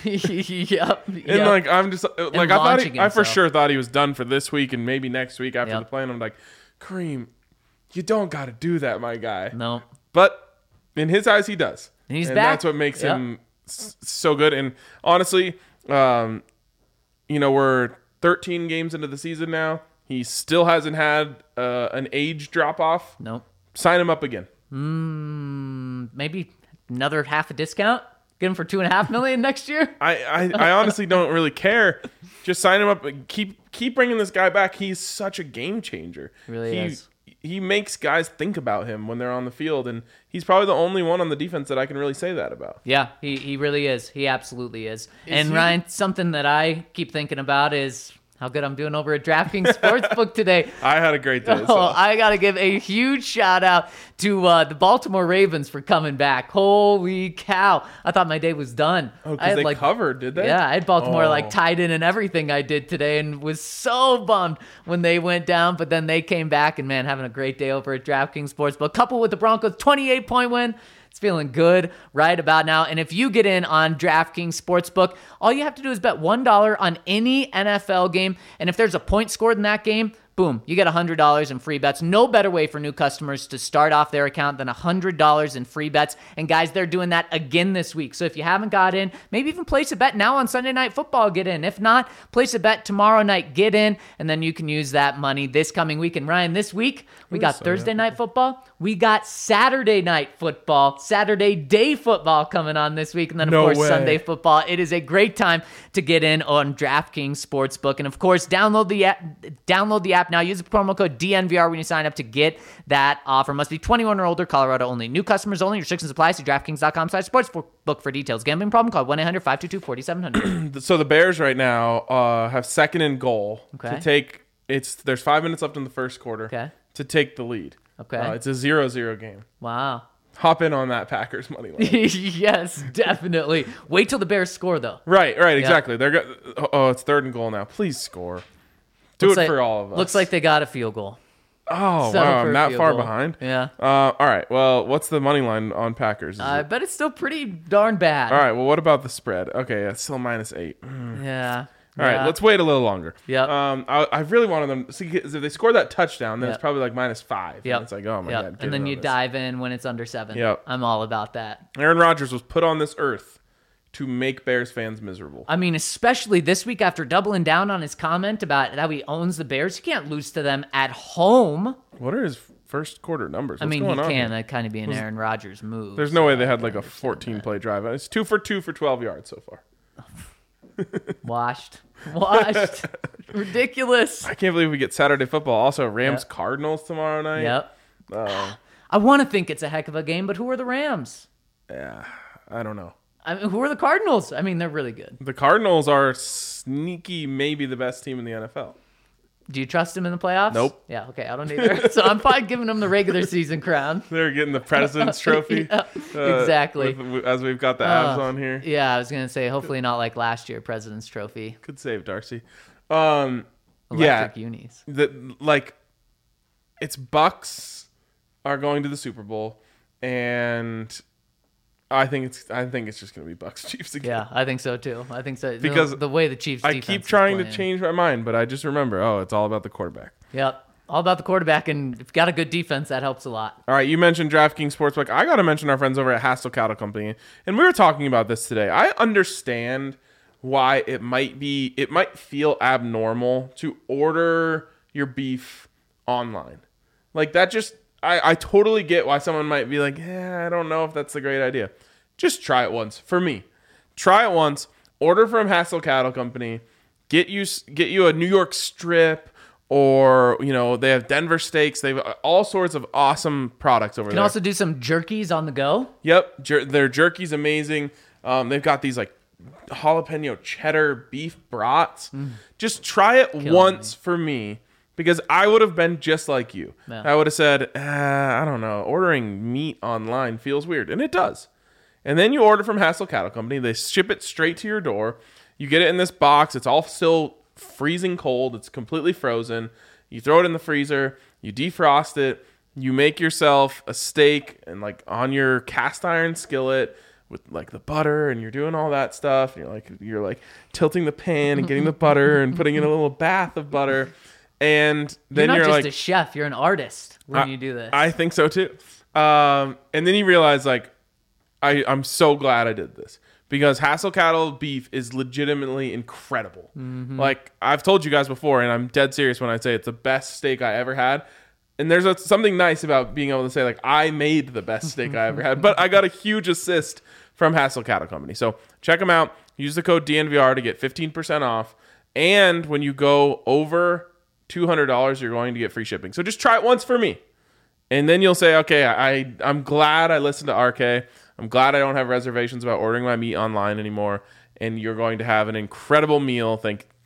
yep. And yep. like I'm just like I thought launching he, I for himself. sure thought he was done for this week and maybe next week after Yep. the play. And I'm like, Kareem, you don't got to do that, my guy. No. But in his eyes, he does. And he's and back. that's what makes Yep. him s- so good. And honestly, um, you know, we're thirteen games into the season now. He still hasn't had uh, an age drop off. Nope. Sign him up again. Mm, maybe another half a discount? Get him for two and a half million next year? I, I, I honestly don't really care. Just sign him up and keep keep bringing this guy back. He's such a game changer. Really he, is. He makes guys think about him when they're on the field, and he's probably the only one on the defense that I can really say that about. Yeah, he, he really is. He absolutely is. and he- Ryan, something that I keep thinking about is how good I'm doing over at DraftKings Sportsbook today. I had a great day. Oh, So. I got to give a huge shout out to uh, the Baltimore Ravens for coming back. Holy cow. I thought my day was done. Oh, I because had, they like, covered, did they? Yeah, I had Baltimore Oh. like tied in and everything I did today and was so bummed when they went down. But then they came back and, man, having a great day over at DraftKings Sportsbook. Coupled with the Broncos twenty-eight point win. It's feeling good right about now. And if you get in on DraftKings Sportsbook, all you have to do is bet one dollar on any N F L game. And if there's a point scored in that game, boom, you get one hundred dollars in free bets. No better way for new customers to start off their account than one hundred dollars in free bets. And guys, they're doing that again this week. So if you haven't got in, maybe even place a bet now on Sunday Night Football, get in. If not, place a bet tomorrow night, get in, and then you can use that money this coming week. And Ryan, this week, we got Thursday Night Football. We got Saturday Night Football, Saturday Day Football coming on this week. And then, of No course, way. Sunday Football. It is a great time to get in on DraftKings Sportsbook. And, of course, download the app, download the app now. Use the promo code D N V R when you sign up to get that offer. Must be twenty-one or older, Colorado only. New customers only. Restrictions apply. See DraftKings.com slash sportsbook for details. Gambling problem? Call one eight hundred five two two four seven zero zero. So the Bears right now uh, have second and goal Okay. to take. It's there's five minutes left in the first quarter Okay. to take the lead. Okay. Uh, it's a zero zero game. Wow. Hop in on that Packers money line. Yes, definitely. Wait till the Bears score, though. Right, right, exactly. They're go- oh, it's third and goal now. Please score. Do Looks it like- for all of us. Looks like they got a field goal. oh Settle wow, for I'm a that field far goal. behind. Yeah. Uh, all right. Well, what's the money line on Packers? Is I it- bet it's still pretty darn bad. all right. Well, what about the spread? Okay, it's still minus eight. Mm. Yeah. All right, Yeah. let's wait a little longer. Yep. Um, I, I really wanted them. See, 'cause if they score that touchdown, then Yep. it's probably like minus five. Yep. And it's like, oh my Yep. god. get And then in you on this. dive in when it's under seven. Yep. I'm all about that. Aaron Rodgers was put on this earth to make Bears fans miserable. I mean, especially this week after doubling down on his comment about how he owns the Bears. You can't lose to them at home. What are his first quarter numbers? I What's mean, he going on can. here? That kind of be an Aaron Rodgers move. There's no way they had like a fourteen play drive. It's two for two for twelve yards so far. Washed. Washed. Ridiculous. I can't believe we get Saturday football. Also, Rams Yep. Cardinals tomorrow night. Yep. Uh, I want to think it's a heck of a game, but who are the Rams? yeah, I don't know. I mean, who are the Cardinals? I mean, they're really good. The Cardinals are sneaky, maybe the best team in the N F L. Do you trust them in the playoffs? Nope. Yeah, okay, I don't either. So I'm fine giving them the regular season crown. They're getting the President's Trophy. Yeah, uh, exactly. with- as we've got the abs Uh, on here. Yeah, I was going to say, hopefully not like last year, President's Trophy. Good save, Darcy. Um, Electric yeah, unis. the like, it's Bucks are going to the Super Bowl, and I think it's I think it's just going to be Bucks Chiefs again. Yeah, I think so too. I think so. Because the, the way the Chiefs I defense keep is trying to playing. change my mind, but I just remember, oh, it's all about the quarterback. Yep. All about the quarterback, and if you've got a good defense, that helps a lot. All right, you mentioned DraftKings Sportsbook. I got to mention our friends over at Hassel Cattle Company, and we were talking about this today. I understand why it might be, it might feel abnormal to order your beef online. Like that just, I, I totally get why someone might be like, yeah, I don't know if that's a great idea. Just try it once. For me, try it once. Order from Hassel Cattle Company. Get you get you a New York strip, or you know they have Denver steaks. They have all sorts of awesome products over You can there. also do some jerkies on the go. Yep, jer- their jerky's amazing. Um, they've got these like jalapeno cheddar beef brats. Just try it once for me, because I would have been just like you. Yeah. I would have said, uh, I don't know, ordering meat online feels weird, and it does. And then you order from Hassel Cattle Company. They ship it straight to your door. You get it in this box. It's all still freezing cold. It's completely frozen. You throw it in the freezer. You defrost it. You make yourself a steak and like on your cast iron skillet with like the butter, and you're doing all that stuff. And you're like you're like tilting the pan and getting the butter and putting in a little bath of butter. And You're then not you're, just like, a chef; you're an artist when I- you do this. I think so too. Um, and then you realize like, I, I'm so glad I did this, because Hassel Cattle beef is legitimately incredible. Mm-hmm. Like I've told you guys before, and I'm dead serious when I say it's the best steak I ever had. And there's a, something nice about being able to say like, I made the best steak I ever had, but I got a huge assist from Hassel Cattle Company. So check them out. Use the code D N V R to get fifteen percent off. And when you go over two hundred dollars, you're going to get free shipping. So just try it once for me. And then you'll say, okay, I, I'm glad I listened to R K. I'm glad I don't have reservations about ordering my meat online anymore. And you're going to have an incredible meal thank,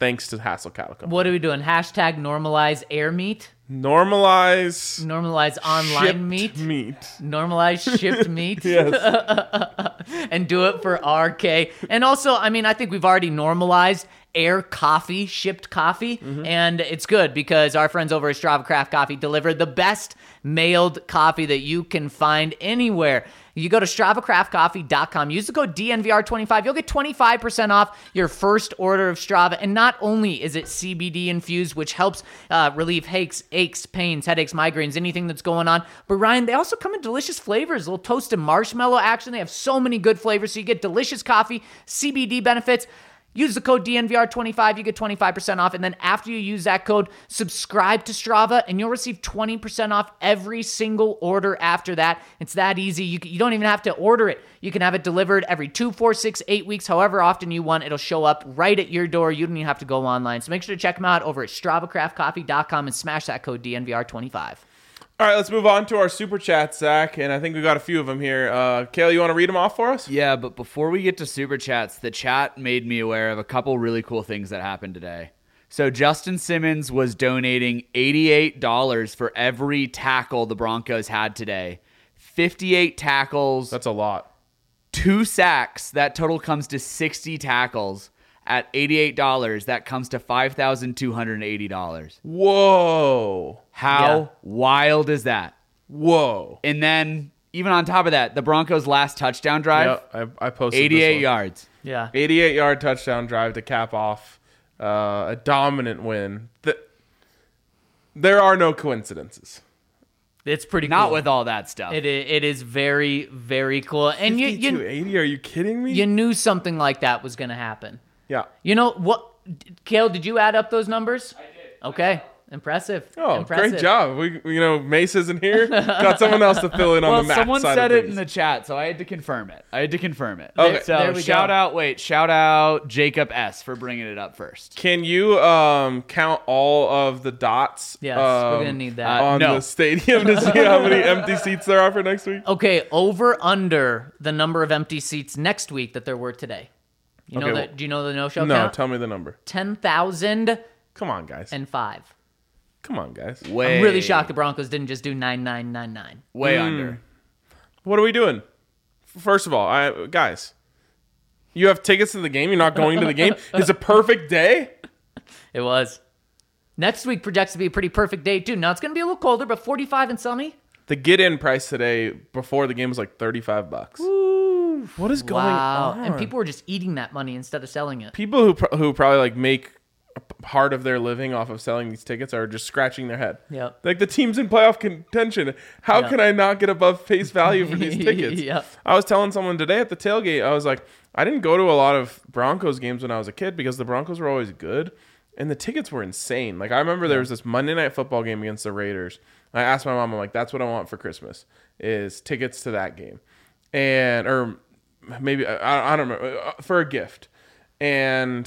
thanks to Hassel Cattle Company. What are we doing? Hashtag normalize air meat. Normalize Normalize online shipped meat. meat. Normalize shipped meat. Yes. And do it for R K. And also, I mean, I think we've already normalized air coffee, shipped coffee. Mm-hmm. And it's good because our friends over at Strava Craft Coffee deliver the best mailed coffee that you can find anywhere. You go to strava craft coffee dot com, use the code D N V R twenty-five. You'll get twenty-five percent off your first order of Strava. And not only is it C B D infused, which helps uh, relieve aches, aches, pains, headaches, migraines, anything that's going on. But Ryan, they also come in delicious flavors, a little toasted marshmallow action. They have so many good flavors. So you get delicious coffee, C B D benefits. Use the code D N V R twenty-five, you get twenty-five percent off. And then after you use that code, subscribe to Strava, and you'll receive twenty percent off every single order after that. It's that easy. You, you don't even have to order it. You can have it delivered every two, four, six, eight weeks, however often you want. It'll show up right at your door. You don't even have to go online. So make sure to check them out over at strava craft coffee dot com and smash that code D N V R twenty-five. All right, let's move on to our super chats, Zach, and I think we got a few of them here. Uh, Kale, you want to read them off for us? Yeah, but before we get to super chats, the chat made me aware of a couple really cool things that happened today. So Justin Simmons was donating eighty-eight dollars for every tackle the Broncos had today. fifty-eight tackles, That's a lot. two sacks. That total comes to sixty tackles. At eighty-eight dollars, that comes to five thousand two hundred eighty dollars. Whoa. How Yeah. wild is that? Whoa. And then, even on top of that, the Broncos' last touchdown drive, Yeah, I, I posted this eighty-eight one. yards. Yeah. eighty-eight yard touchdown drive to cap off uh, a dominant win. The, there are no coincidences. It's pretty Not cool. with all that stuff. It, i- it is very, very cool. And you, fifty-two you, eighty? Are you kidding me? you knew something like that was going to happen. yeah. You know what, Kale? Did you add up those numbers? I did. Okay, impressive. Oh, impressive. great job. We, you know, Mace isn't here. Got someone else to fill in on well, the math someone side said of it things. in the chat, so I had to confirm it. I had to confirm it. Okay. So There we shout go. out, wait, shout out Jacob S. for bringing it up first. Can you um, count all of the dots? Yes, we're um, gonna need that. Uh, on no. the stadium to see how many empty seats there are for next week. Okay, over under the number of empty seats next week that there were today. You know Okay, that? well- Do you know the no-show No, count? tell me the number. Ten thousand Come on, guys. and five. Come on, guys. Way, I'm really shocked the Broncos didn't just do nine nine nine nine. Way Mm. under. What are we doing? First of all, I, guys, you have tickets to the game. You're not going to the game. It's a perfect day. It was. Next week projects to be a pretty perfect day too. Now it's gonna be a little colder, but forty-five and sunny. The get-in price today before the game was like thirty-five bucks. What is going Wow! on? And people were just eating that money instead of selling it. people who pro- who probably like make a p- part of their living off of selling these tickets are just scratching their head. Yep. Like the team's in playoff contention. How Yeah. can I not get above face value for these tickets? Yep. I was telling someone today at the tailgate, I was like, I didn't go to a lot of Broncos games when I was a kid because the Broncos were always good and the tickets were insane. Like I remember there was this Monday night football game against the Raiders. I asked my mom, I'm like, that's what I want for Christmas is tickets to that game. And, or maybe, I, I don't remember, uh, for a gift. And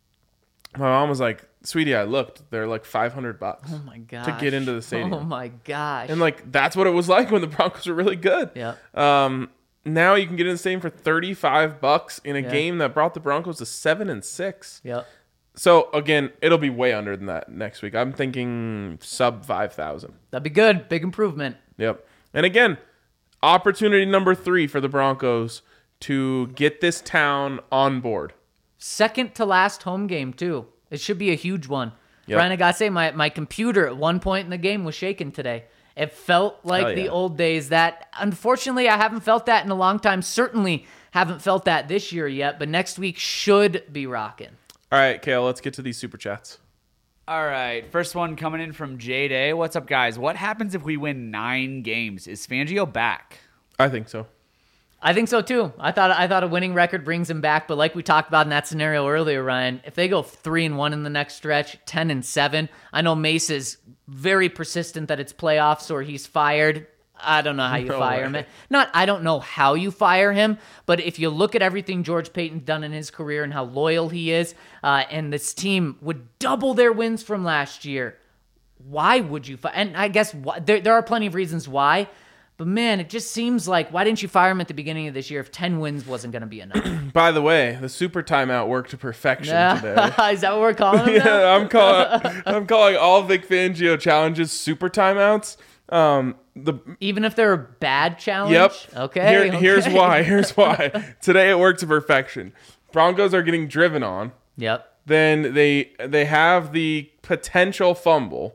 my mom was like, sweetie, I looked, they're like five hundred bucks. Oh my god! To get into the stadium. Oh my gosh! And like, that's what it was like when the Broncos were really good. Yeah. Um, now you can get in the stadium for thirty-five bucks in a Yeah. game that brought the Broncos to seven and six. Yep. So again, it'll be way under than that next week. I'm thinking sub five thousand. That'd be good. Big improvement. Yep. And again, opportunity number three for the Broncos to get this town on board. Second to last home game too. It should be a huge one. Yep. Brian, I gotta say, my, my computer at one point in the game was shaking today. It felt like Hell the yeah. old days. That unfortunately I haven't felt that in a long time. Certainly haven't felt that this year yet. But next week should be rocking. All right, Kale, let's get to these super chats. All right, first one coming in from Jade A. What's up, guys? What happens if we win nine games? Is Fangio back? I think so. I think so too. I thought I thought a winning record brings him back, but like we talked about in that scenario earlier, Ryan, if they go three and one in the next stretch, ten and seven, I know Mace is very persistent that it's playoffs or he's fired. I don't know how you No fire way. him. Not I don't know how you fire him, but if you look at everything George Payton's done in his career and how loyal he is, uh, and this team would double their wins from last year, why would you fire? And I guess why, there there are plenty of reasons why. But man, it just seems like, why didn't you fire him at the beginning of this year if ten wins wasn't going to be enough? By the way, the super timeout worked to perfection today. Is that what we're calling him now? Yeah, I'm calling. I'm calling all Vic Fangio challenges super timeouts. Um, the Even if they're a bad challenge? Yep. Okay, Here, okay. Here's why. Here's why. Today it worked to perfection. Broncos are getting driven on. Yep. Then they they have the potential fumble.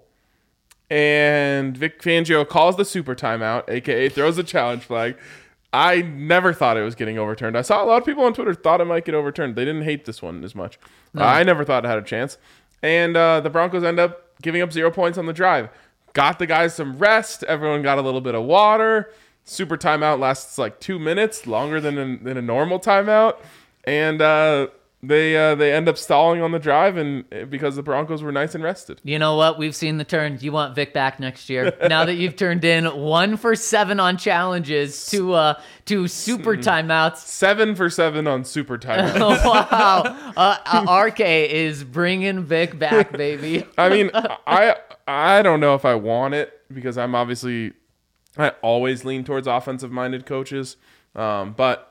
And Vic Fangio calls the super timeout, aka throws a challenge flag. I never thought it was getting overturned. I saw a lot of people on Twitter thought it might get overturned. They didn't hate this one as much. No. Uh, I never thought it had a chance. And uh, the Broncos end up giving up zero points on the drive. Got the guys some rest. Everyone got a little bit of water. Super timeout lasts like two minutes, longer than a, than a normal timeout. And uh, they uh, they end up stalling on the drive, and because the Broncos were nice and rested. You know what? We've seen the turn. You want Vic back next year. Now that you've turned in one for seven on challenges to uh, to super timeouts. Seven for seven on super timeout. Wow. Uh, uh, R K is bringing Vic back, baby. I mean, I I don't know if I want it because I'm obviously I always lean towards offensive minded coaches, um, but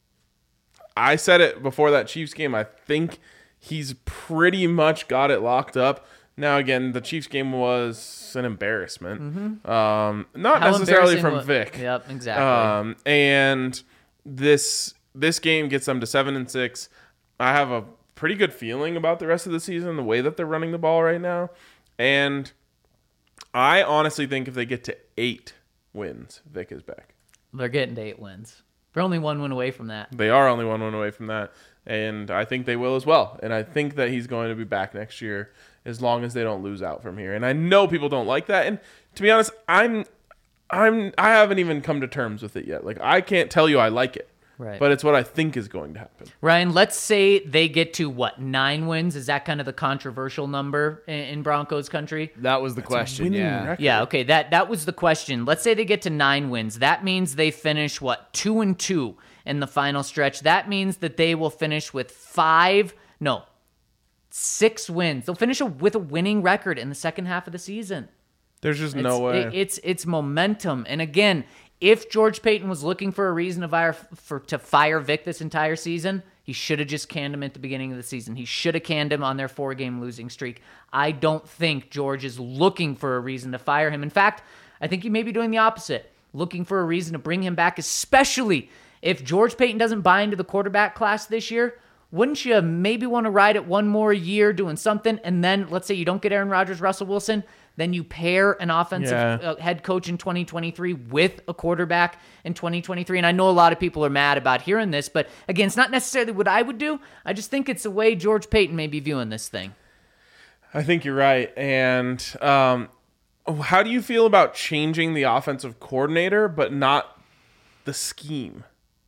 I said it before that Chiefs game. I think he's pretty much got it locked up. Now again, the Chiefs game was an embarrassment, mm-hmm. um, not How necessarily from wa- Vic. Yep, exactly. Um, and this this game gets them to seven and six. I have a pretty good feeling about the rest of the season, the way that they're running the ball right now, and I honestly think if they get to eight wins, Vic is back. They're getting to eight wins. They're only one win away from that. They are only one win away from that, and I think they will as well. And I think that he's going to be back next year as long as they don't lose out from here. And I know people don't like that. And to be honest, I'm, I'm, I haven't even come to terms with it yet. Like I can't tell you I like it, Right. but it's what I think is going to happen. Ryan, let's say they get to what, nine wins? Is that kind of the controversial number in, in Broncos country? That was the question, winning yeah. record. Yeah, okay, that that was the question. Let's say they get to nine wins. That means they finish what, two and two in the final stretch. That means that they will finish with five, no, six wins. They'll finish a, with a winning record in the second half of the season. There's just It's, no way. it- it's it's momentum. And again, if George Payton was looking for a reason to fire for to fire Vic this entire season, he should have just canned him at the beginning of the season. He should have canned him on their four-game losing streak. I don't think George is looking for a reason to fire him. In fact, I think he may be doing the opposite, looking for a reason to bring him back, especially if George Payton doesn't buy into the quarterback class this year. Wouldn't you maybe want to ride it one more year doing something, and then let's say you don't get Aaron Rodgers, Russell Wilson, then you pair an offensive Yeah. uh, head coach in twenty twenty-three with a quarterback in twenty twenty-three. And I know a lot of people are mad about hearing this, but again, it's not necessarily what I would do. I just think it's the way George Payton may be viewing this thing. I think you're right. And um, how do you feel about changing the offensive coordinator, but not the scheme?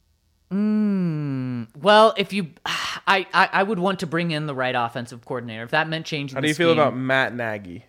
Well, if you, I, I, I would want to bring in the right offensive coordinator. If that meant changing How the do you feel scheme, about Matt Nagy?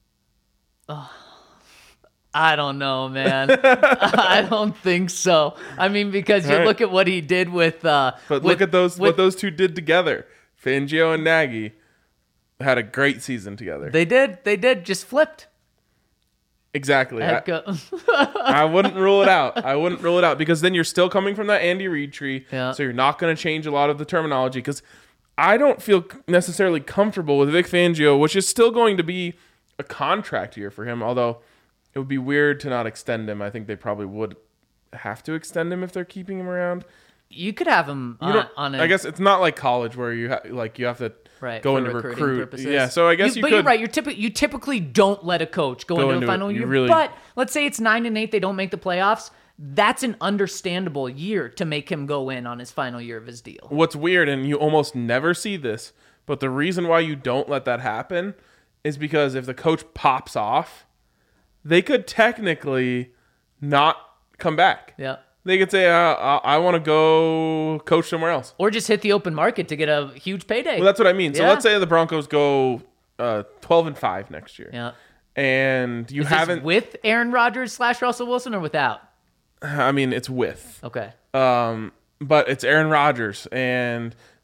I don't know, man. I don't think so. I mean, because you All right. look at what he did with, uh, But with- look at those with- what those two did together. Fangio and Nagy had a great season together. They did. They did. Just flipped. exactly. I, Head co- I wouldn't rule it out. I wouldn't rule it out because then you're still coming from that Andy Reid tree. Yeah. So you're not going to change a lot of the terminology because I don't feel necessarily comfortable with Vic Fangio, which is still going to be a contract year for him, although it would be weird to not extend him. I think they probably would have to extend him if they're keeping him around. you could have him You on, don't- on a, I guess it's not like college where you ha- like you have to right, go for into recruiting recruit. purposes. Yeah, so I guess you, but could. you're right. You're typically you typically don't let a coach go, Go into, into the it. final You year. really- But let's say it's nine and eight, they don't make the playoffs. That's an understandable year to make him go in on his final year of his deal. What's weird, and you almost never see this, but the reason why you don't let that happen is because if the coach pops off, they could technically not come back. Yeah. They could say, uh, I, I want to go coach somewhere else. Or just hit the open market to get a huge payday. Well, that's what I mean. So Yeah. let's say the Broncos go uh, twelve and five next year. yeah. And you Is this haven't, with Aaron Rodgers slash Russell Wilson or without? I mean, it's with. Okay. Um, but it's Aaron Rodgers, and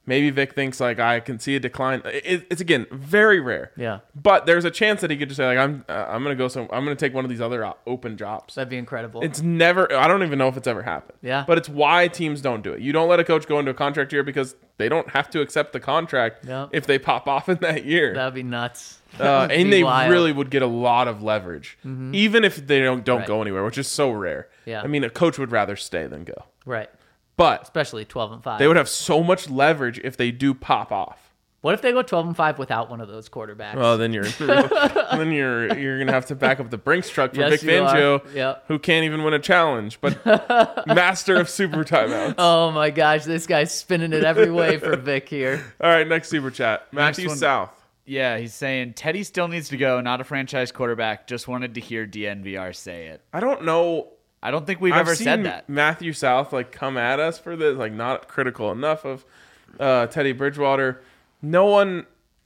Maybe Vic thinks like I can see a decline. It, it's again very rare. Yeah. But there's a chance that he could just say like I'm uh, I'm gonna go some I'm gonna take one of these other uh, open jobs. That'd be incredible. It's never. I don't even know if it's ever happened. Yeah. But it's why teams don't do it. You don't let a coach go into a contract year because they don't have to accept the contract Yep. if they pop off in that year. That'd be nuts. Uh, That would and be they wild. really would get a lot of leverage, even if they don't don't Right. go anywhere, which is so rare. Yeah. I mean, a coach would rather stay than go. Right. But Especially twelve and five. they would have so much leverage if they do pop off. What if they go twelve and five without one of those quarterbacks? Well, then you're then you're you're gonna have to back up the Brinks truck for Yes, Vic you are. Fangio, Yep. who can't even win a challenge, but master of super timeouts. Oh my gosh, this guy's spinning it every way for Vic here. All right, next super chat, Matthew one. South. Yeah, he's saying Teddy still needs to go, not a franchise quarterback. Just wanted to hear D N V R say it. I don't know. I don't think we've I've ever seen said that. Matthew South like come at us for this, like not critical enough of uh, Teddy Bridgewater. No one,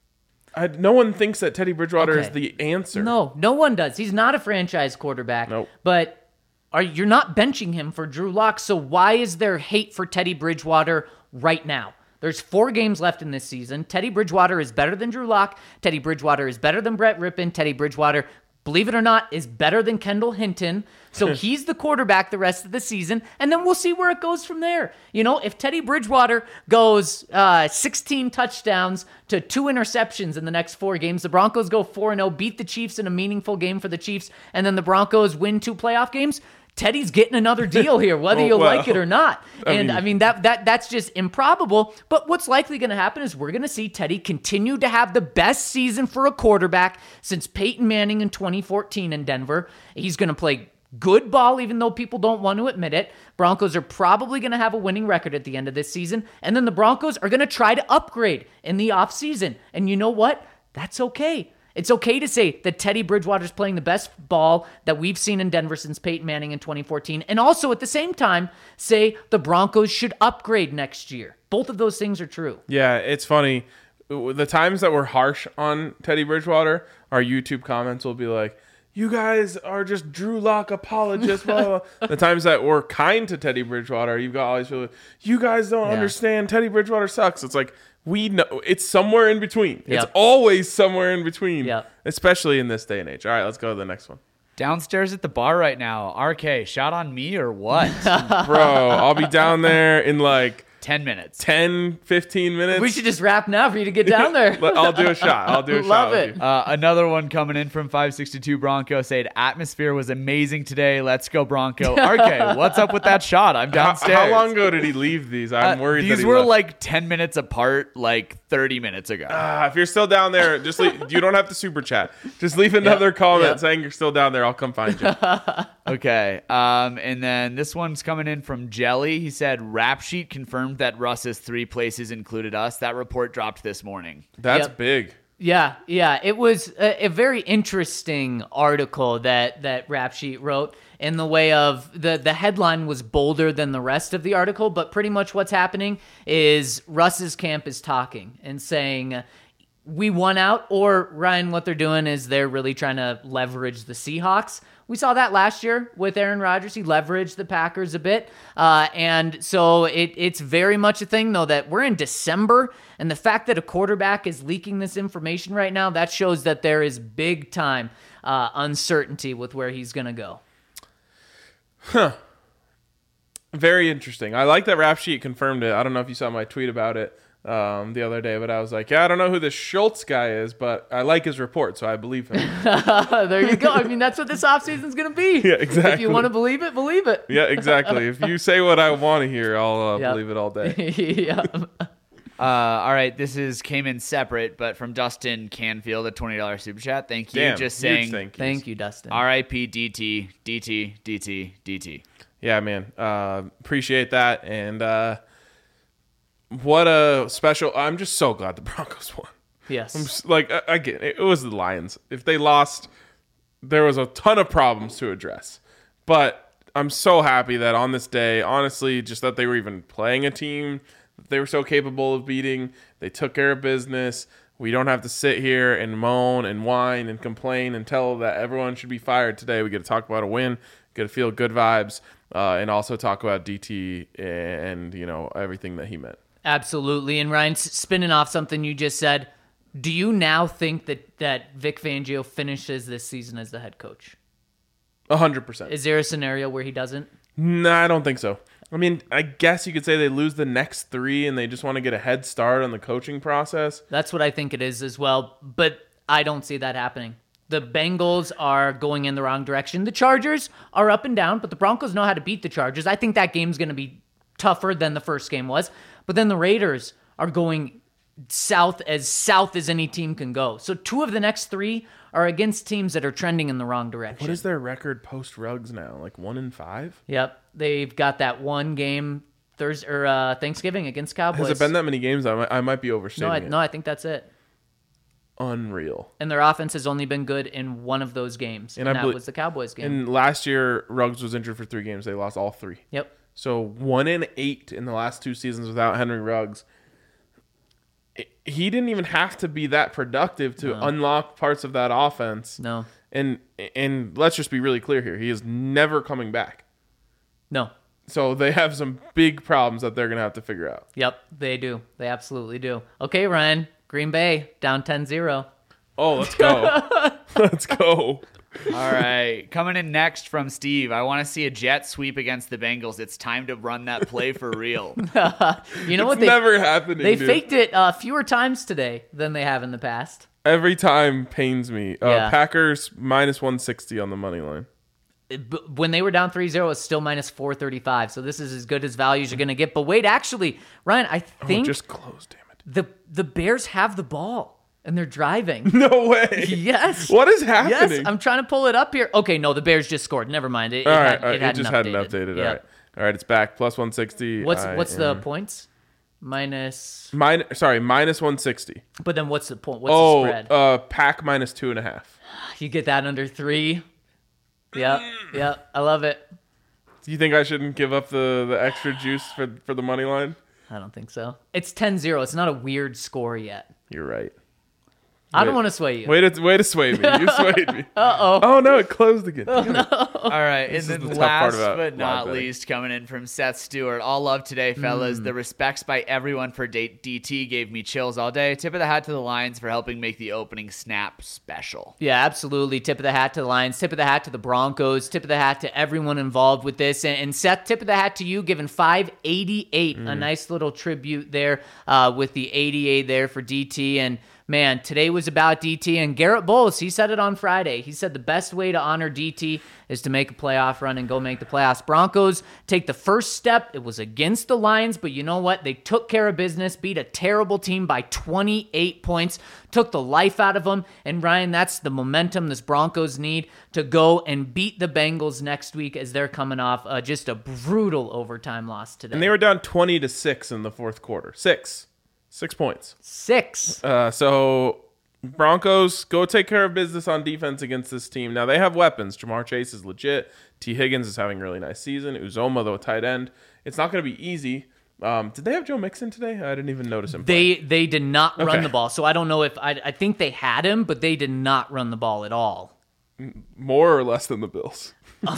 I, no one thinks that Teddy Bridgewater is Okay. the answer. No, no one does. He's not a franchise quarterback. Nope. But are you're not benching him for Drew Lock, so why is there hate for Teddy Bridgewater right now? There's four games left in this season. Teddy Bridgewater is better than Drew Lock. Teddy Bridgewater is better than Brett Rippon. Teddy Bridgewater, believe it or not, is better than Kendall Hinton. So he's the quarterback the rest of the season, and then we'll see where it goes from there. You know, if Teddy Bridgewater goes uh, sixteen touchdowns to two interceptions in the next four games, the Broncos go four and oh, beat the Chiefs in a meaningful game for the Chiefs, and then the Broncos win two playoff games, Teddy's getting another deal here, whether Oh, you well, like it or not. I And mean- I mean that that that's just improbable. But what's likely going to happen is we're going to see Teddy continue to have the best season for a quarterback since Peyton Manning in twenty fourteen in Denver. He's going to play good ball, even though people don't want to admit it. Broncos are probably going to have a winning record at the end of this season. And then the Broncos are going to try to upgrade in the offseason. And you know what? That's okay. It's okay to say that Teddy Bridgewater's playing the best ball that we've seen in Denver since Peyton Manning in twenty fourteen. And also at the same time, say the Broncos should upgrade next year. Both of those things are true. Yeah, it's funny. The times that we're harsh on Teddy Bridgewater, our YouTube comments will be like, you guys are just Drew Lock apologists. Blah, blah, blah. The times that we're kind to Teddy Bridgewater, you've got all these people, you guys don't Yeah. understand. Teddy Bridgewater sucks. It's like, we know it's somewhere in between. It's Yep. always somewhere in between, Yep. especially in this day and age. All right, let's go to the next one. Downstairs at the bar right now. R K, shot on me or what? Bro, I'll be down there in like Ten minutes. ten, fifteen minutes. We should just wrap now for you to get down there. But I'll do a shot. I'll do a Love shot. with it. you. Uh, another one coming in from five sixty-two Bronco said, atmosphere was amazing today. Let's go Bronco. R K, what's up with that shot? I'm How, downstairs. how long ago did he leave these? I'm Uh, worried that These he were left. like ten minutes apart, like thirty minutes ago. Ah, if you're still down there, just leave, you don't have to super chat. Just leave another comment yeah. saying you're still down there. I'll come find you. Okay. Um, and then this one's coming in from Jelly. He said, Rap Sheet confirmed that Russ's three places included us. That report dropped this morning. That's Yep. big. Yeah, yeah. It was a, a very interesting article that that Rap Sheet wrote in the way of the, the headline was bolder than the rest of the article, but pretty much what's happening is Russ's camp is talking and saying we won out, or Ryan, what they're doing is they're really trying to leverage the Seahawks. We saw that last year with Aaron Rodgers. He leveraged the Packers a bit. Uh, and so it, it's very much a thing, though, that we're in December, and the fact that a quarterback is leaking this information right now, that shows that there is big time uh, uncertainty with where he's going to go. Very interesting. I like that Rap Sheet confirmed it. I don't know if you saw my tweet about it um, the other day, but I was like, yeah, I don't know who this Schultz guy is, but I like his report, so I believe him. There you go. I mean, that's what this offseason's going to be. Yeah, If exactly. you want to believe it, believe it. Yeah, exactly. If you say what I want to hear, I'll uh, Yep. believe it all day. yeah. Uh, all right. This is came in separate, but from Dustin Canfield, a twenty dollars super chat. Thank you. Damn, Just huge saying, thank yous. Thank you, Dustin. R I P D T, D T, D T, D T. Yeah, man. Uh, appreciate that. And uh, what a special. I'm just so glad the Broncos won. Yes. I'm just, like, uh, again, it was the Lions. If they lost, there was a ton of problems to address. But I'm so happy that on this day, honestly, just that they were even playing a team that they were so capable of beating. They took care of business. We don't have to sit here and moan and whine and complain and tell that everyone should be fired today. We get to talk about a win, get to feel good vibes, uh, and also talk about D T and, you know, everything that he meant. Absolutely. And Ryan, s- spinning off something you just said, do you now think that, that Vic Fangio finishes this season as the head coach? A hundred percent. Is there a scenario where he doesn't? No, I don't think so. I mean, I guess you could say they lose the next three and they just want to get a head start on the coaching process. That's what I think it is as well, but I don't see that happening. The Bengals are going in the wrong direction. The Chargers are up and down, but the Broncos know how to beat the Chargers. I think that game's going to be tougher than the first game was. But then the Raiders are going south as south as any team can go. So two of the next three are against teams that are trending in the wrong direction. What is their record post Ruggs now? Like one in five? Yep. They've got that one game Thursday or uh, Thanksgiving against Cowboys. Has it been that many games? I might, I might be overstating No, I, it. no, I think that's it. Unreal. And their offense has only been good in one of those games, and, And I that belie- was the Cowboys game. And last year, Ruggs was injured for three games. They lost all three. Yep. So one in eight in the last two seasons without Henry Ruggs. It- He didn't even have to be that productive to unlock parts of that offense. No. And and let's just be really clear here. He is never coming back. No. So they have some big problems that they're going to have to figure out. Yep, they do. They absolutely do. Okay, Ryan. Green Bay down ten zero. Oh, let's go. Let's go. All right, coming in next from Steve. I want to see a jet sweep against the Bengals. It's time to run that play for real. You know what? It's They, never happening. they dude. faked it uh, fewer times today than they have in the past. Every time pains me. Uh, Yeah. Packers minus one sixty on the money line. It- but when they were down three zero, it's still minus four thirty-five. So this is as good as values you're going to get. But wait, actually, Ryan, I Oh, think just close, damn it. the the Bears have the ball and they're driving. No way. Yes. What is Yes, happening? I'm trying to pull it up here. Okay, no, the Bears just scored. Never mind. It, it, all right, had, all right. it, It, hadn't just updated. hadn't updated. Yep. All right. All right, it's back. Plus one sixty. What's I what's the am- points? Minus. Min- sorry, minus one sixty. But then what's the point? What's Oh, the spread? uh, pack minus two and a half. You get that under three. Yep, yep. I love it. Do you think I shouldn't give up the, the extra juice for for the money line? I don't think so. It's ten zero. It's not a weird score yet. You're right. I don't Wait. want to sway you. Way to way to sway me. You swayed me. Uh oh. Oh no, it closed again. Damn it. All right, This and is then the tough part last about but live not betting. least, coming in from Seth Stewart. All love today, fellas. The respects by everyone for D- DT gave me chills all day. Tip of the hat to the Lions for helping make the opening snap special. Yeah, absolutely. Tip of the hat to the Lions. Tip of the hat to the Broncos. Tip of the hat to everyone involved with this. And, and Seth, tip of the hat to you, giving five eighty-eight. A nice little tribute there uh, with the eighty-eight there for D T. And man, today was about D T. And Garrett Bowles, he said it on Friday. He said the best way to honor D T is to make a playoff run and go make the playoffs. Broncos take the first step. It was against the Lions, but you know what? They took care of business, beat a terrible team by twenty-eight points, took the life out of them. And Ryan, that's the momentum this Broncos need to go and beat the Bengals next week as they're coming off uh, just a brutal overtime loss today. And they were down twenty to six in the fourth quarter. Six. Six points. Six. Uh, so Broncos go take care of business on defense against this team. Now they have weapons. Jamar Chase is legit. T. Higgins is having a really nice season. Uzoma, though, tight end. It's not going to be easy. Um, did they have Joe Mixon today? I didn't even notice him. play. They they did not run Okay. the ball, so I don't know if I I think they had him, but they did not run the ball at all. More or less than the Bills.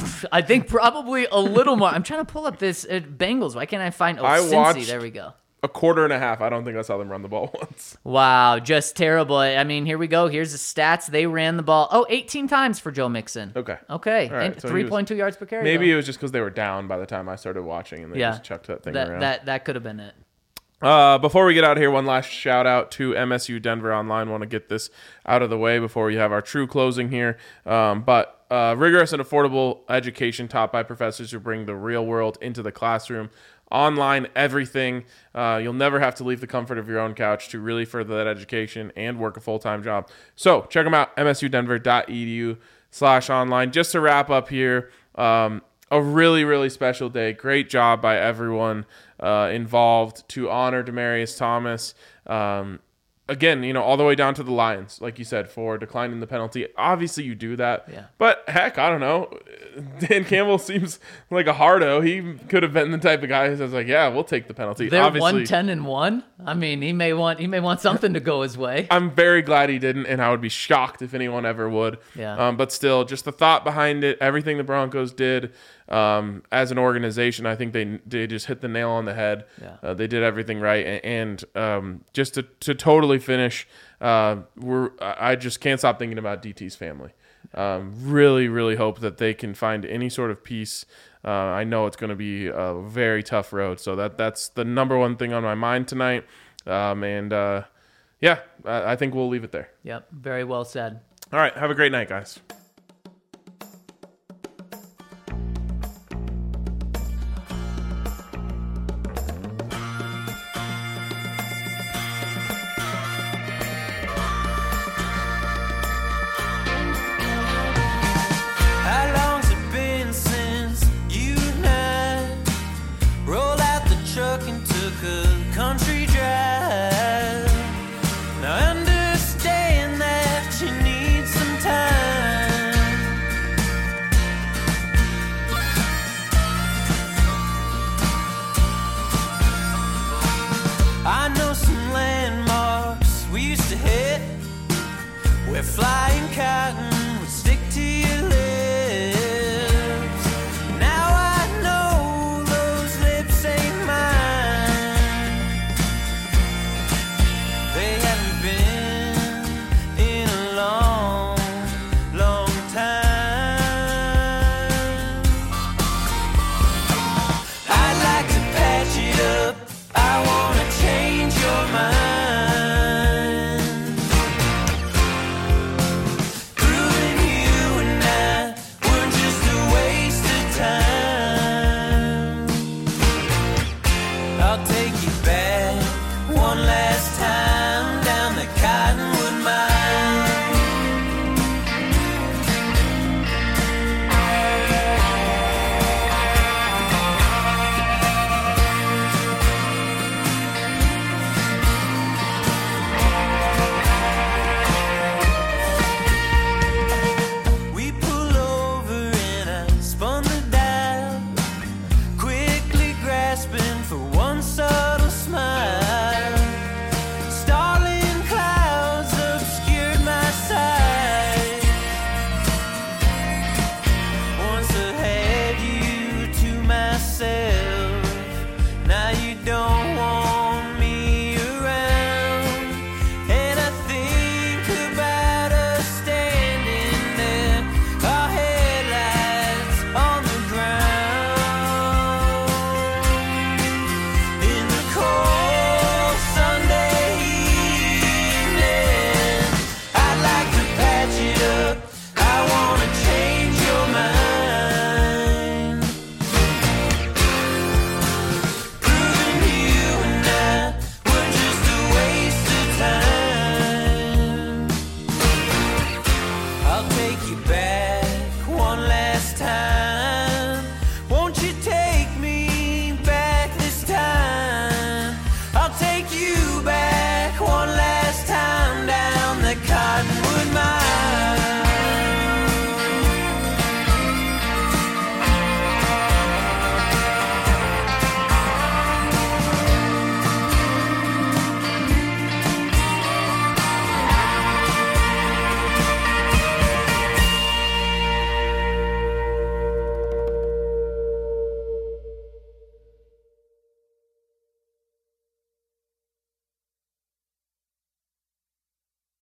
I think probably a little more. I'm trying to pull up this uh, Bengals. Why can't I find? Oh, I Cincy. watched- There we go. A quarter and a half. I don't think I saw them run the ball once. Wow, just terrible. I mean, here we go. Here's the stats. They ran the ball, oh, eighteen times for Joe Mixon. Okay. Okay. All right, And so he three was- point two yards per carry. Maybe though. it was just because they were down by the time I started watching and they yeah. just chucked that thing that, around. That, that could have been it. Uh, before we get out of here, one last shout out to M S U Denver Online. Want to get this out of the way before we have our true closing here. Um, but uh, rigorous and affordable education taught by professors who bring the real world into the classroom. Online, everything. Uh, you'll never have to leave the comfort of your own couch to really further that education and work a full-time job. So check them out, m s u denver dot e d u slash online. Just to wrap up here, um, a really, really special day. Great job by everyone uh, involved to honor Demaryius Thomas. Um, again, you know, all the way down to the Lions, like you said, for declining the penalty. Obviously, you do that. Yeah. But heck, I don't know. Dan Campbell seems like a hardo. He could have been the type of guy who says, like, yeah, we'll take the penalty. They're Obviously, one ten and one. I mean, he may want he may want something to go his way. I'm very glad he didn't, and I would be shocked if anyone ever would. Yeah. Um, but still, just the thought behind it, everything the Broncos did, um, as an organization, I think they they just hit the nail on the head. Yeah. Uh, they did everything right, and, and um, just to to totally finish, uh, we're I just can't stop thinking about D T's family. Um, really, really hope that they can find any sort of peace. Uh, I know it's going to be a very tough road, so that that's the number one thing on my mind tonight. Um, and uh, yeah, I, I think we'll leave it there. Yep, very well said. All right, have a great night, guys. How long's it been since you and I rolled out the truck and took a country drive? Now I understand that you need some time. I know some landmarks we used to hit where flying cotton would stick to your lips. Now I know those lips ain't mine. They haven't been in a long, long time. I'd like to patch it up. I wanna change your mind. Proving you and I weren't just a waste of time. I'll take you back one last time down the Cottonwood Mine. We pull over and I spun the dial, quickly grasping for one subtle smile. Starling clouds obscured my sight. Once I had you to myself.